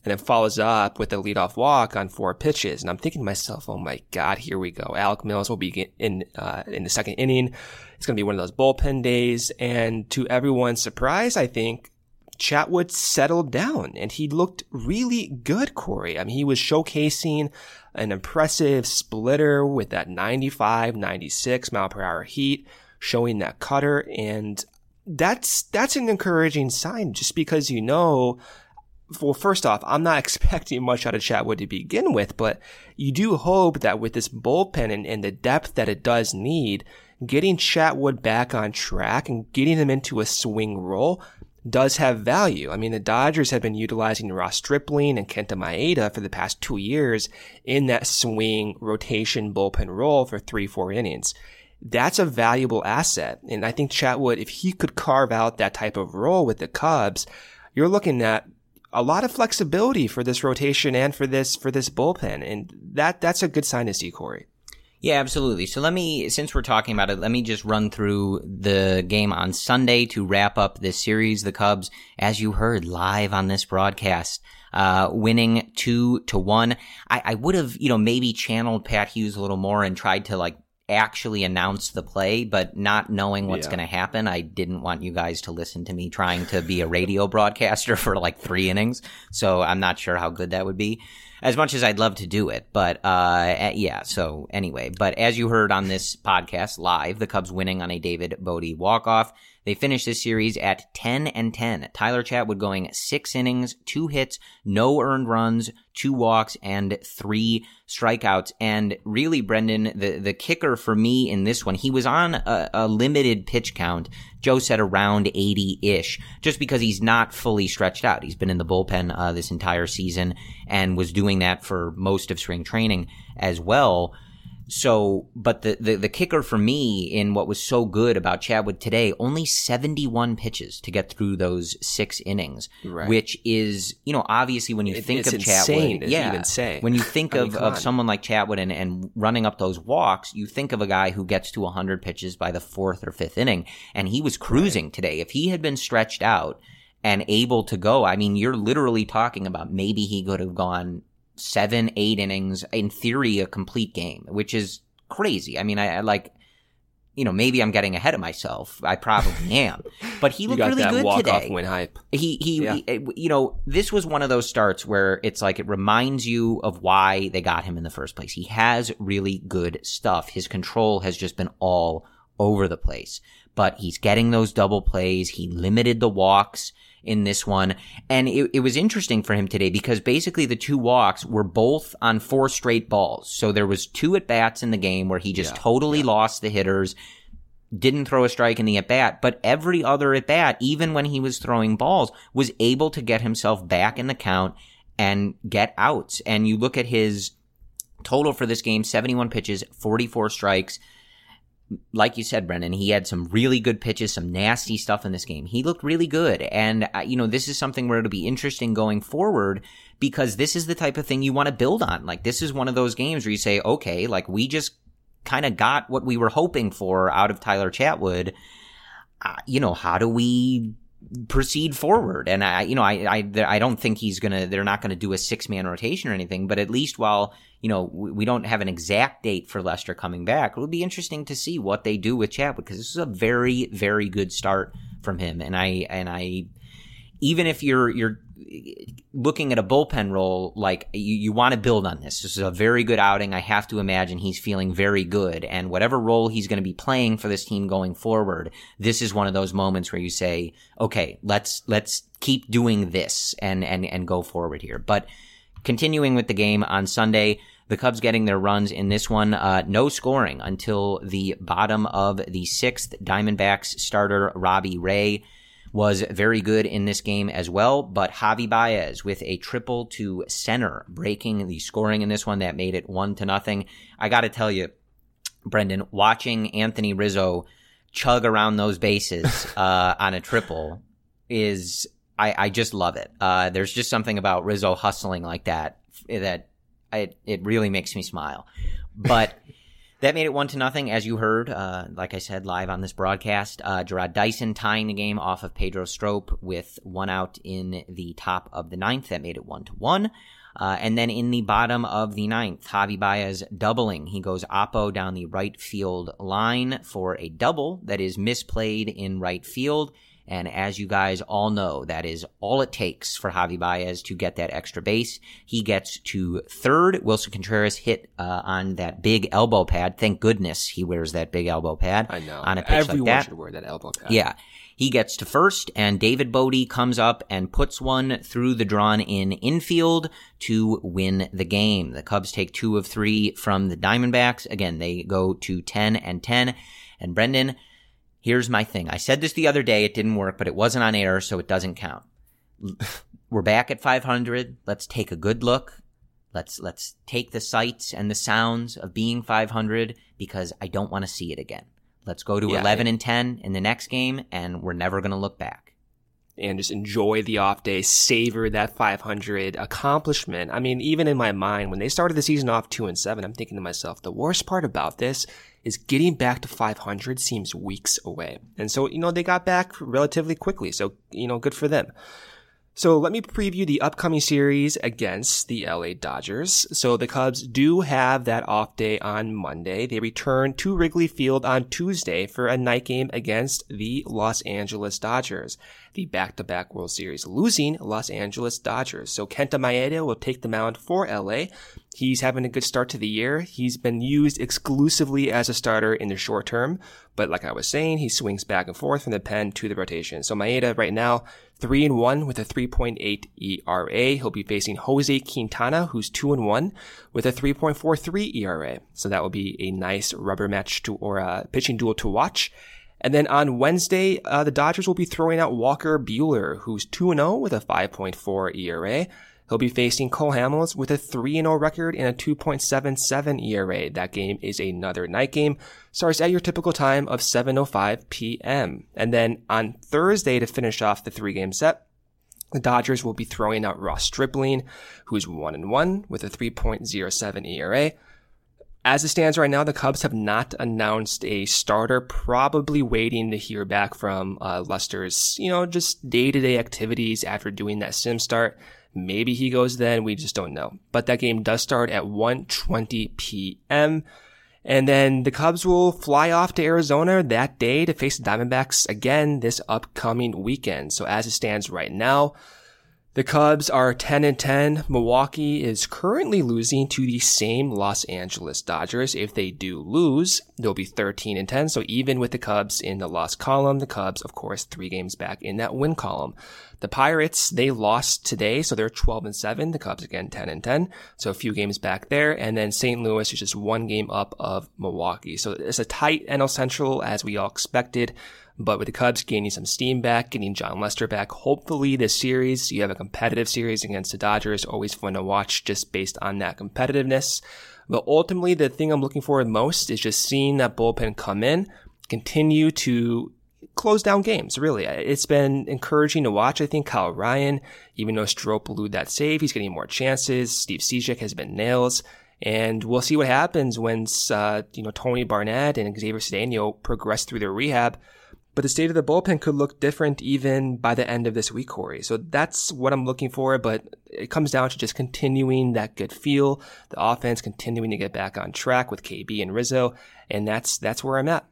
and then follows up with a leadoff walk on four pitches. And I'm thinking to myself, oh my God, here we go. Alec Mills will be in, uh, in the second inning. It's going to be one of those bullpen days. And to everyone's surprise, I think Chatwood settled down and he looked really good, Corey. I mean, he was showcasing an impressive splitter with that ninety-five, ninety-six mile per hour heat, showing that cutter. And that's, that's an encouraging sign just because, you know, well, first off, I'm not expecting much out of Chatwood to begin with, but you do hope that with this bullpen and, and the depth that it does need, getting Chatwood back on track and getting him into a swing role does have value. I mean, the Dodgers have been utilizing Ross Stripling and Kenta Maeda for the past two years in that swing rotation bullpen role for three, four innings. That's a valuable asset. And I think Chatwood, if he could carve out that type of role with the Cubs, you're looking at a lot of flexibility for this rotation and for this, for this bullpen. And that, that's a good sign to see, Corey. Yeah, absolutely. So let me, since we're talking about it, let me just run through the game on Sunday to wrap up this series. The Cubs, as you heard live on this broadcast, uh, winning two to one. I, I would have, you know, maybe channeled Pat Hughes a little more and tried to like actually announce the play, but not knowing what's yeah. going to happen, I didn't want you guys to listen to me trying to be a radio broadcaster for like three innings. So I'm not sure how good that would be. As much as I'd love to do it, but uh yeah, so anyway, but as you heard on this podcast live, the Cubs winning on a David Bote walk-off. They finished this series at ten and ten. Tyler Chatwood going six innings, two hits, no earned runs, two walks, and three strikeouts. And really, Brendan, the, the kicker for me in this one, he was on a, a limited pitch count. Joe said around eighty-ish, just because he's not fully stretched out. He's been in the bullpen uh, this entire season and was doing that for most of spring training as well. So, but the, the, the kicker for me in what was so good about Chatwood today, only seventy-one pitches to get through those six innings, right. Which is, you know, obviously when you it, think it's of insane Chatwood, yeah, even say. when you think I of, mean, of on. someone like Chatwood and, and running up those walks, you think of a guy who gets to one hundred pitches by the fourth or fifth inning, and he was cruising right. today. If he had been stretched out and able to go, I mean, you're literally talking about maybe he could have gone seven, eight innings, in theory, a complete game, which is crazy. I mean, I, I like, you know, maybe I'm getting ahead of myself. I probably am, but he looked you got really that good walk today. Off win hype. He, he, yeah. he, you know, this was one of those starts where it's like it reminds you of why they got him in the first place. He has really good stuff. His control has just been all over the place, but he's getting those double plays. He limited the walks in this one. And it, it was interesting for him today because basically the two walks were both on four straight balls. So there was two at-bats in the game where he just yeah, totally yeah. lost the hitters, didn't throw a strike in the at-bat, but every other at-bat, even when he was throwing balls, was able to get himself back in the count and get outs. And you look at his total for this game, seventy-one pitches, forty-four strikes. Like you said, Brendan, he had some really good pitches, some nasty stuff in this game. He looked really good. And, uh, you know, this is something where it'll be interesting going forward because this is the type of thing you want to build on. Like, this is one of those games where you say, okay, like, we just kind of got what we were hoping for out of Tyler Chatwood. Uh, you know, how do we proceed forward? And I, you know, I, I, I don't think he's gonna, they're not gonna do a six-man rotation or anything, but at least while, you know, we don't have an exact date for Lester coming back, it would be interesting to see what they do with Chatwood because this is a very, very good start from him. And I, and I, even if you're, you're looking at a bullpen role, like you, you want to build on this. This is a very good outing. I have to imagine he's feeling very good. And whatever role he's going to be playing for this team going forward, this is one of those moments where you say, okay, let's, let's keep doing this and, and, and go forward here. But continuing with the game on Sunday, the Cubs getting their runs in this one, uh, no scoring until the bottom of the sixth. Diamondbacks starter Robbie Ray was very good in this game as well, but Javi Baez with a triple to center, breaking the scoring in this one that made it one to nothing. I got to tell you, Brendan, watching Anthony Rizzo chug around those bases uh, on a triple is, I, I just love it. Uh, there's just something about Rizzo hustling like that that I, it really makes me smile. But That made it one to nothing, as you heard, uh, like I said, live on this broadcast. Uh, Gerard Dyson tying the game off of Pedro Strop with one out in the top of the ninth. That made it one to one. Uh, and then in the bottom of the ninth, Javi Baez doubling. He goes oppo down the right field line for a double that is misplayed in right field. And as you guys all know, that is all it takes for Javi Baez to get that extra base. He gets to third. Wilson Contreras hit uh, on that big elbow pad. Thank goodness he wears that big elbow pad. I know. On a pitch Everyone like that. should wear that elbow pad. Yeah. He gets to first, and David Bodie comes up and puts one through the drawn-in infield to win the game. The Cubs take two of three from the Diamondbacks. Again, they go to ten and ten. And Brendan, here's my thing. I said this the other day. It didn't work, but it wasn't on air, so it doesn't count. We're back at five hundred. Let's take a good look. Let's let's take the sights and the sounds of being five hundred, because I don't want to see it again. Let's go to yeah, eleven and, and ten in the next game, and we're never going to look back. And just enjoy the off day, savor that five hundred accomplishment. I mean, even in my mind, when they started the season off two and seven, I'm thinking to myself, the worst part about this is getting back to five hundred seems weeks away. And so, you know, they got back relatively quickly. So, you know, good for them. So let me preview the upcoming series against the L A Dodgers. So the Cubs do have that off day on Monday. They return to Wrigley Field on Tuesday for a night game against the Los Angeles Dodgers, the back-to-back World Series losing Los Angeles Dodgers. So Kenta Maeda will take the mound for L A. He's having a good start to the year. He's been used exclusively as a starter in the short term, but like I was saying, he swings back and forth from the pen to the rotation. So Maeda right now, three and one with a three point eight E R A. He'll be facing Jose Quintana, who's two and one with a three point four three E R A. So that will be a nice rubber match to, or a pitching duel to watch. And then on Wednesday, uh, the Dodgers will be throwing out Walker Buehler, who's two and oh with a five point four E R A. He'll be facing Cole Hamels with a three and oh record and a two point seven seven E R A. That game is another night game. Starts at your typical time of seven oh five p.m. And then on Thursday, to finish off the three-game set, the Dodgers will be throwing out Ross Stripling, who's one and one with a three point oh seven E R A. As it stands right now, the Cubs have not announced a starter, probably waiting to hear back from uh, Lester's, you know, just day-to-day activities after doing that sim start. Maybe he goes then, we just don't know. But that game does start at one twenty p.m. And then the Cubs will fly off to Arizona that day to face the Diamondbacks again this upcoming weekend. So as it stands right now, the Cubs are ten and ten. Milwaukee is currently losing to the same Los Angeles Dodgers. If they do lose, they'll be thirteen and ten. So even with the Cubs in the loss column, the Cubs, of course, three games back in that win column. The Pirates, they lost today, so they're twelve and seven. The Cubs, again, ten and ten. So a few games back there. And then Saint Louis is just one game up of Milwaukee. So it's a tight N L Central, as we all expected. But with the Cubs gaining some steam back, getting John Lester back, hopefully this series, you have a competitive series against the Dodgers. Always fun to watch just based on that competitiveness. But ultimately, the thing I'm looking for most is just seeing that bullpen come in, continue to close down games, really. It's been encouraging to watch. I think Kyle Ryan, even though Strop blew that save, he's getting more chances. Steve Cishek has been nails. And we'll see what happens once, uh, you know, Tony Barnett and Xavier Cedeno progress through their rehab. But the state of the bullpen could look different even by the end of this week, Corey. So that's what I'm looking for, but it comes down to just continuing that good feel, the offense continuing to get back on track with K B and Rizzo, and that's that's where I'm at.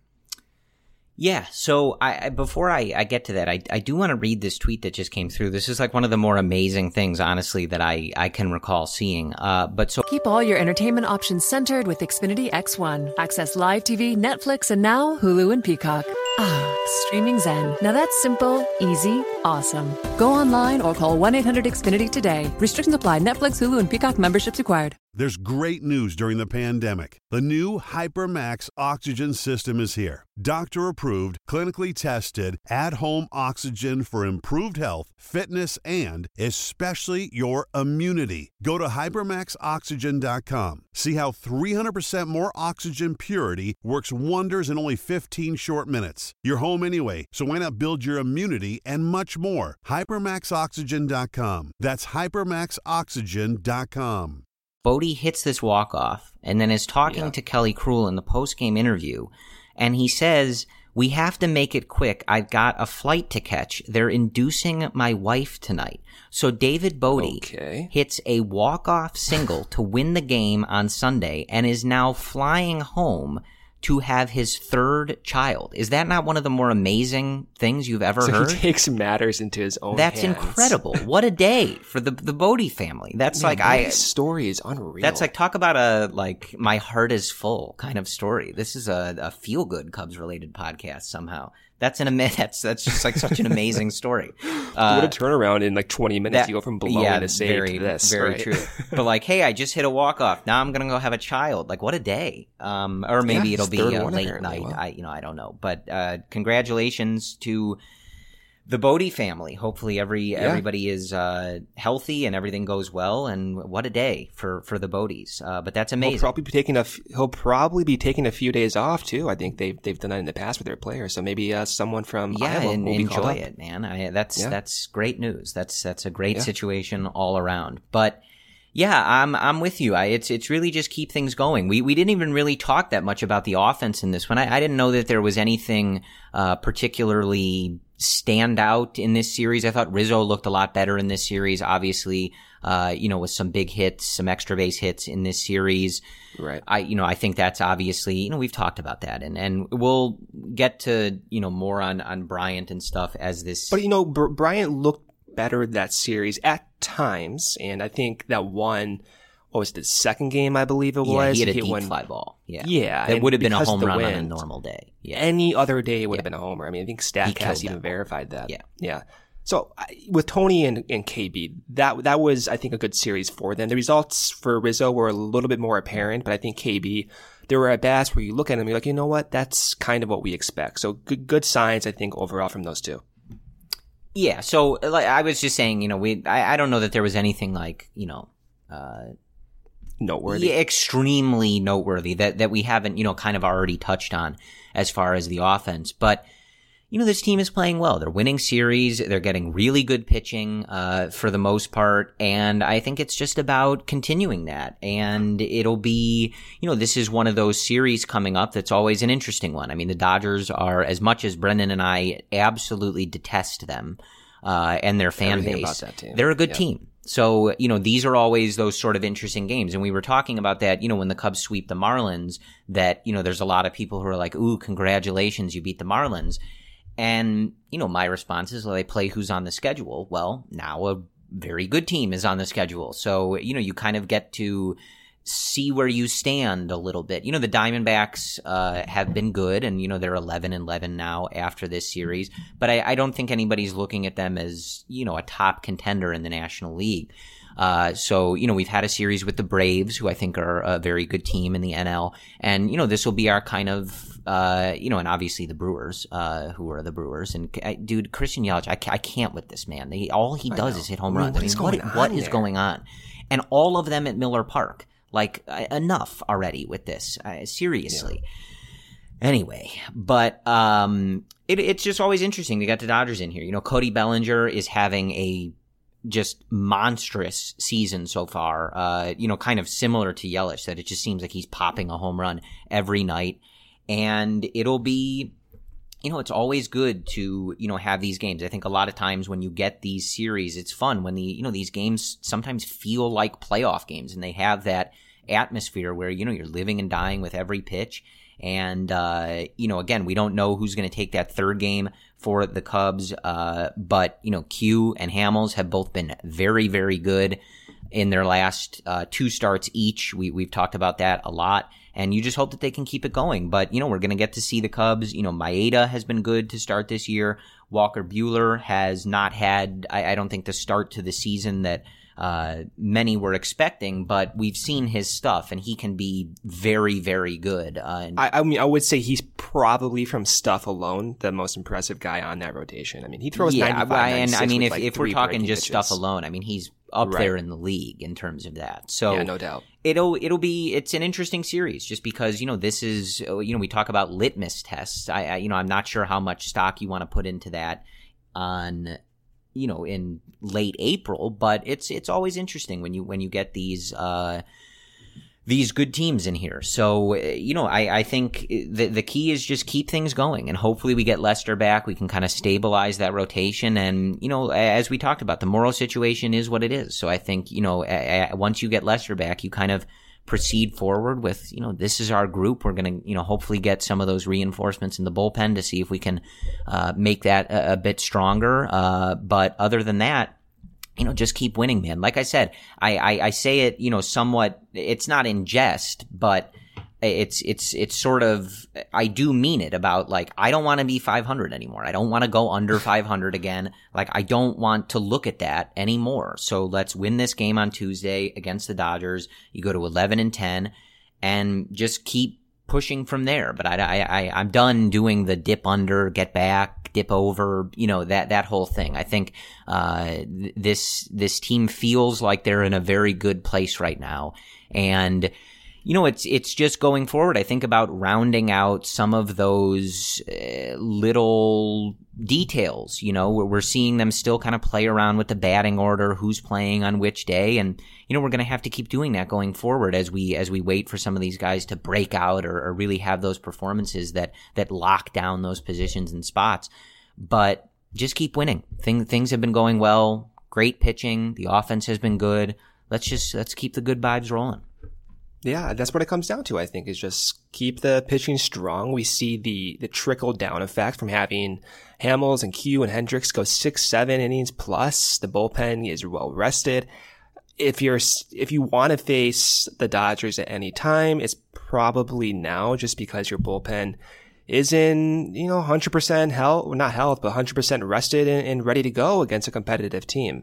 Yeah, so I, I before I, I get to that, I, I do want to read this tweet that just came through. This is like one of the more amazing things, honestly, that I, I can recall seeing. Uh, but so Keep all your entertainment options centered with Xfinity X one. Access live T V, Netflix, and now Hulu and Peacock. Ah, streaming zen. Now that's simple, easy, awesome. Go online or call one eight hundred X Finity today. Restrictions apply. Netflix, Hulu, and Peacock memberships required. There's great news during the pandemic. The new HyperMax oxygen system is here. Doctor-approved, clinically tested, at-home oxygen for improved health, fitness, and especially your immunity. Go to hypermax oxygen dot com. See how three hundred percent more oxygen purity works wonders in only fifteen short minutes. You're home anyway, so why not build your immunity and much more? hypermax oxygen dot com. That's hypermax oxygen dot com. Bodie hits this walk-off and then is talking Yeah. to Kelly Krul in the post-game interview, and he says, "We have to make it quick. I've got a flight to catch. They're inducing my wife tonight." So David Bodie Okay. hits a walk-off single to win the game on Sunday and is now flying home to have his third child. Is that not one of the more amazing things you've ever So heard? he takes matters into his own That's hands. incredible. What a day for the the Bodie family. That's Man, like I Bodie's story is unreal. That's like, talk about a, like, my heart is full kind of story. This is a, a feel-good Cubs-related podcast somehow. That's an ama- that's that's just like such an amazing story. Uh, what a turnaround in like twenty minutes. that- You go from blowing yeah, to save very, to this. very right? true. But like, hey, I just hit a walk-off. Now I'm gonna go have a child. Like, what a day. Um, or maybe Yeah, it'll his be third a one, late apparently. night. Wow. I, you know, I don't know. But uh, congratulations to the Bodie family. Hopefully every Yeah. everybody is uh, healthy and everything goes well. And what a day for, for the Bodies. Uh, but that's amazing. He'll probably be taking a. f- He'll probably be taking a few days off too. I think they've they've done that in the past with their players. So maybe uh, someone from Yeah, Iowa and will be called enjoy up. it, man. I, that's Yeah. that's great news. That's that's a great Yeah. situation all around. But yeah, I'm I'm with you. I, it's it's really just keep things going. We we didn't even really talk that much about the offense in this one. I, I didn't know that there was anything uh, particularly stand out in this series. I thought Rizzo looked a lot better in this series. Obviously, uh, you know, with some big hits, some extra base hits in this series. Right. I, you know, I think that's obviously, you know, we've talked about that, and, and we'll get to, you know, more on, on Bryant and stuff as this. But you know, Br- Bryant looked better that series at times, and I think that one, what was it, the second game, I believe it yeah, was. he had a hit deep one- fly ball. Yeah. Yeah, That and would have been a because of home the run on a wind, normal day. Yeah. Any other day would Yeah. have been a homer. I mean, I think He killed StatCast even that verified that. Yeah. Yeah. So I, with Tony and, and K B, that that was, I think, a good series for them. The results for Rizzo were a little bit more apparent, but I think K B, there were at bats where you look at them and you're like, you know what? That's kind of what we expect. So good, good signs, I think, overall from those two. Yeah. So like I was just saying, you know, we, I, I don't know that there was anything like, you know, uh, Noteworthy. Yeah, extremely noteworthy that, that we haven't, you know, kind of already touched on as far as the offense. But, you know, this team is playing well. They're winning series. They're getting really good pitching, uh, for the most part. And I think it's just about continuing that. And it'll be, you know, this is one of those series coming up that's always an interesting one. I mean, the Dodgers are, as much as Brendan and I absolutely detest them, uh, and their fan Everything base, about that team. they're a good Yeah. team. So, you know, these are always those sort of interesting games. And we were talking about that, you know, when the Cubs sweep the Marlins, that, you know, there's a lot of people who are like, ooh, congratulations, you beat the Marlins. And, you know, my response is, well, they play who's on the schedule. Well, now a very good team is on the schedule. So, you know, you kind of get to see where you stand a little bit. You know, the Diamondbacks uh, have been good, and, you know, they're eleven and eleven now after this series. But I, I don't think anybody's looking at them as, you know, a top contender in the National League. Uh, so, you know, we've had a series with the Braves, who I think are a very good team in the N L. And, you know, this will be our kind of, uh, you know, and obviously the Brewers, uh, who are the Brewers. And, I, dude, Christian Yelich, I, I can't with this man. They, all he does is hit home I mean, runs. what I is mean, what, going what on is there? going on? And all of them at Miller Park. Like, uh, enough already with this. Uh, seriously. Anyway, but um, it, it's just always interesting to get the Dodgers in here. You know, Cody Bellinger is having a just monstrous season so far, uh, you know, kind of similar to Yelich, that it just seems like he's popping a home run every night. And it'll be, you know, it's always good to, you know, have these games. I think a lot of times when you get these series, it's fun when the, you know, these games sometimes feel like playoff games, and they have that atmosphere where, you know, you're living and dying with every pitch. And, uh, you know, again, we don't know who's going to take that third game for the Cubs. Uh, but, you know, Q and Hamels have both been very, very good in their last, uh, two starts each. We, we've talked about that a lot. And you just hope that they can keep it going. But, you know, we're going to get to see the Cubs. You know, Maeda has been good to start this year. Walker Buehler has not had, I, I don't think, the start to the season that uh, many were expecting, but we've seen his stuff, and he can be very, very good. Uh, and I, I mean, I would say he's probably, from stuff alone, the most impressive guy on that rotation. I mean, he throws yeah, ninety-five, and ninety-six I mean, with if, like if we're three talking breaking just pitches. stuff alone, I mean, he's up Right. there in the league in terms of that. So Yeah, no doubt. It'll it'll be it's an interesting series, just because, you know, this is, you know, we talk about litmus tests. I, I you know I'm not sure how much stock you want to put into that on you know, in late April, but it's it's always interesting when you when you get these uh, these good teams in here. So, you know, I, I think the the key is just keep things going, and hopefully we get Leicester back. We can kind of stabilize that rotation, and, you know, as we talked about, the Morrow situation is what it is. So I think, you know, once you get Leicester back, you kind of proceed forward with, you know, this is our group. We're going to, you know, hopefully get some of those reinforcements in the bullpen to see if we can uh, make that a, a bit stronger. Uh, but other than that, you know, just keep winning, man. Like I said, I, I, I say it, you know, somewhat, it's not in jest, but it's, it's, it's sort of, I do mean it about, like, I don't want to be five hundred anymore. I don't want to go under five hundred again. Like, I don't want to look at that anymore. So let's win this game on Tuesday against the Dodgers. You go to eleven and ten and just keep pushing from there. But I, I, I, I'm done doing the dip under, get back, dip over, you know, that, that whole thing. I think, uh, this, this team feels like they're in a very good place right now. And, you know, it's, it's just going forward. I think about rounding out some of those uh, little details, you know, where we're seeing them still kind of play around with the batting order, who's playing on which day. And, you know, we're going to have to keep doing that going forward as we, as we wait for some of these guys to break out or, or really have those performances that, that lock down those positions and spots. But just keep winning. Thing, things have been going well. Great pitching. The offense has been good. Let's just, let's keep the good vibes rolling. Yeah, that's what it comes down to, I think, is just keep the pitching strong. We see the, the trickle down effect from having Hamels and Q and Hendricks go six, seven innings plus. The bullpen is well rested. If you're, if you want to face the Dodgers at any time, it's probably now, just because your bullpen is in, you know, one hundred percent health, well, not health, but one hundred percent rested and, and ready to go against a competitive team.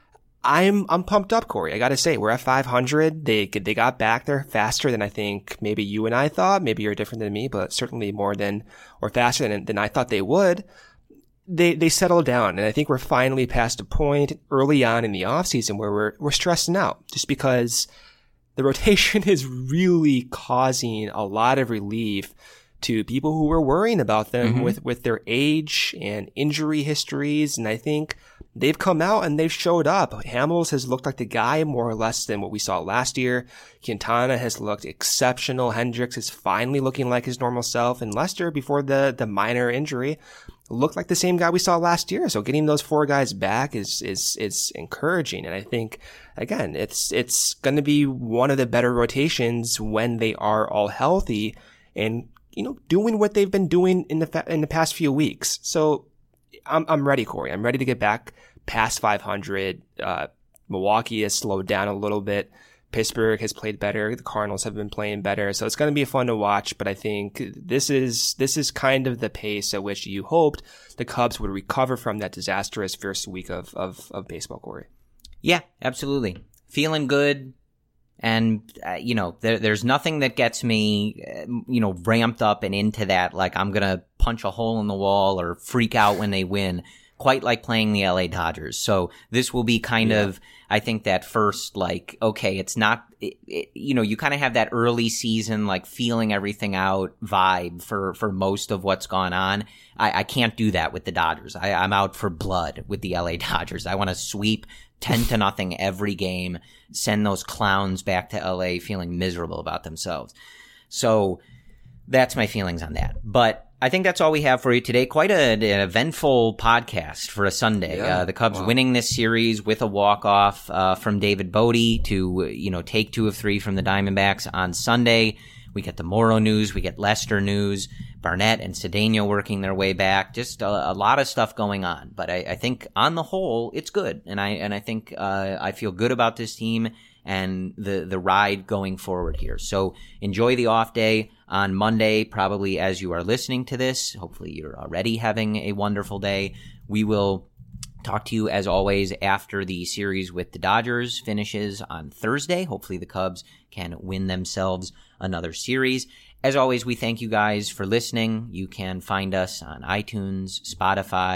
I'm, I'm pumped up, Corey. I gotta say, we're at five hundred. They, they got back there faster than I think maybe you and I thought. Maybe you're different than me, but certainly more than, or faster than, than I thought they would. They, they settled down. And I think we're finally past a point early on in the offseason where we're, we're stressing out just because the rotation is really causing a lot of relief to people who were worrying about them mm-hmm. with, with their age and injury histories. And I think they've come out and they've showed up. Hamels has looked like the guy more or less than what we saw last year. Quintana has looked exceptional. Hendricks is finally looking like his normal self. And Lester, before the, the minor injury, looked like the same guy we saw last year. So getting those four guys back is, is, is encouraging. And I think, again, it's, it's going to be one of the better rotations when they are all healthy and, you know, doing what they've been doing in the, fa- in the past few weeks. So, I'm, I'm ready, Corey. I'm ready to get back past five hundred. Uh, Milwaukee has slowed down a little bit. Pittsburgh has played better. The Cardinals have been playing better. So it's going to be fun to watch. But I think this is, this is kind of the pace at which you hoped the Cubs would recover from that disastrous first week of, of, of baseball, Corey. Yeah, absolutely. Feeling good. And, uh, you know, there, there's nothing that gets me, uh, you know, ramped up and into that, like I'm going to punch a hole in the wall or freak out when they win, quite like playing the L A Dodgers. So this will be kind yeah. of, I think, that first, like, okay, it's not, it, it, you know, you kind of have that early season, like, feeling everything out vibe for, for most of what's gone on. I, I can't do that with the Dodgers. I, I'm out for blood with the L A Dodgers. I want to sweep ten to nothing every game, send those clowns back to L A feeling miserable about themselves. So that's my feelings on that. But I think that's all we have for you today. Quite a, an eventful podcast for a Sunday. Yeah. Uh, the Cubs wow. winning this series with a walk-off uh, from David Bote to, you know, take two of three from the Diamondbacks on Sunday. We get the Morrow news. We get Leicester news. Barnett and Cedeno working their way back. Just a, a lot of stuff going on. But I, I think on the whole, it's good. And I and I think uh, I feel good about this team and the, the ride going forward here. So enjoy the off day on Monday, probably as you are listening to this. Hopefully you're already having a wonderful day. We will talk to you, as always, after the series with the Dodgers finishes on Thursday. Hopefully the Cubs can win themselves another series. As always, we thank you guys for listening. You can find us on iTunes, Spotify,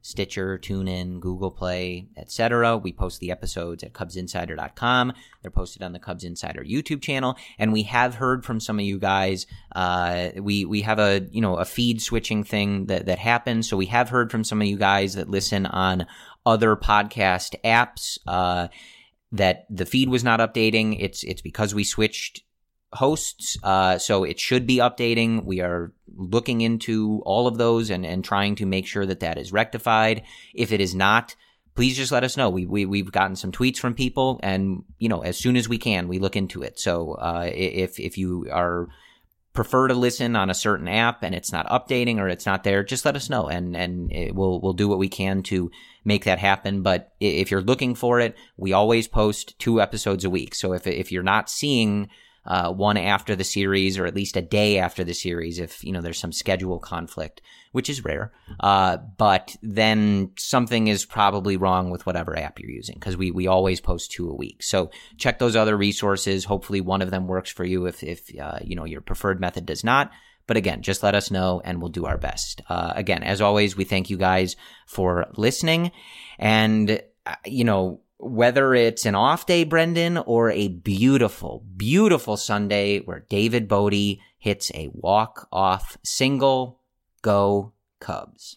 Stitcher, TuneIn, Google Play, et cetera. We post the episodes at Cubs Insider dot com. They're posted on the Cubs Insider YouTube channel. And we have heard from some of you guys. Uh, we, we have a, you know, a feed switching thing that, that happens. So we have heard from some of you guys that listen on other podcast apps, uh, that the feed was not updating. It's, it's because we switched hosts, uh, so it should be updating. We are looking into all of those and, and trying to make sure that that is rectified. If it is not, please just let us know. We, we, we've gotten some tweets from people, and, you know, as soon as we can, we look into it. So, uh, if, if you are prefer to listen on a certain app and it's not updating or it's not there, just let us know, and, and it, we'll, we'll do what we can to make that happen. But if you're looking for it, we always post two episodes a week. So if, if you're not seeing Uh, one after the series, or at least a day after the series, if, you know, there's some schedule conflict, which is rare. Uh, but then something is probably wrong with whatever app you're using, because we, we always post two a week. So check those other resources. Hopefully one of them works for you if, if, uh, you know, your preferred method does not. But again, just let us know and we'll do our best. Uh, again, as always, we thank you guys for listening. And, uh, you know, whether it's an off day, Brendan, or a beautiful, beautiful Sunday where David Bote hits a walk-off single, go Cubs.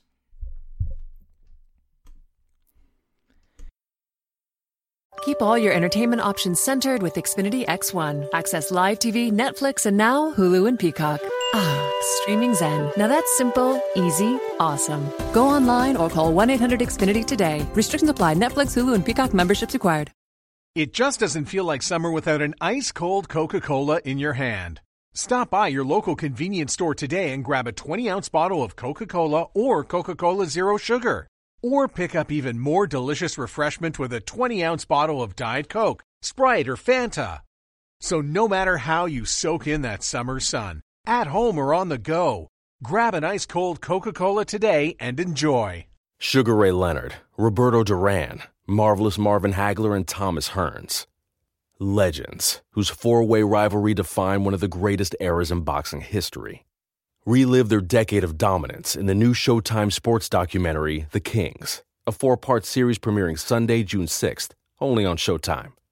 Keep all your entertainment options centered with Xfinity X one. Access live T V, Netflix, and now Hulu and Peacock. Ah, streaming zen. Now that's simple, easy, awesome. Go online or call one eight hundred X Finity today. Restrictions apply. Netflix, Hulu, and Peacock memberships required. It just doesn't feel like summer without an ice-cold Coca-Cola in your hand. Stop by your local convenience store today and grab a twenty-ounce bottle of Coca-Cola or Coca-Cola Zero Sugar. Or pick up even more delicious refreshment with a twenty-ounce bottle of Diet Coke, Sprite, or Fanta. So no matter how you soak in that summer sun, at home or on the go, grab an ice-cold Coca-Cola today and enjoy. Sugar Ray Leonard, Roberto Duran, Marvelous Marvin Hagler, and Thomas Hearns. Legends, whose four-way rivalry defined one of the greatest eras in boxing history. Relive their decade of dominance in the new Showtime sports documentary, The Kings, a four-part series premiering Sunday, June sixth, only on Showtime.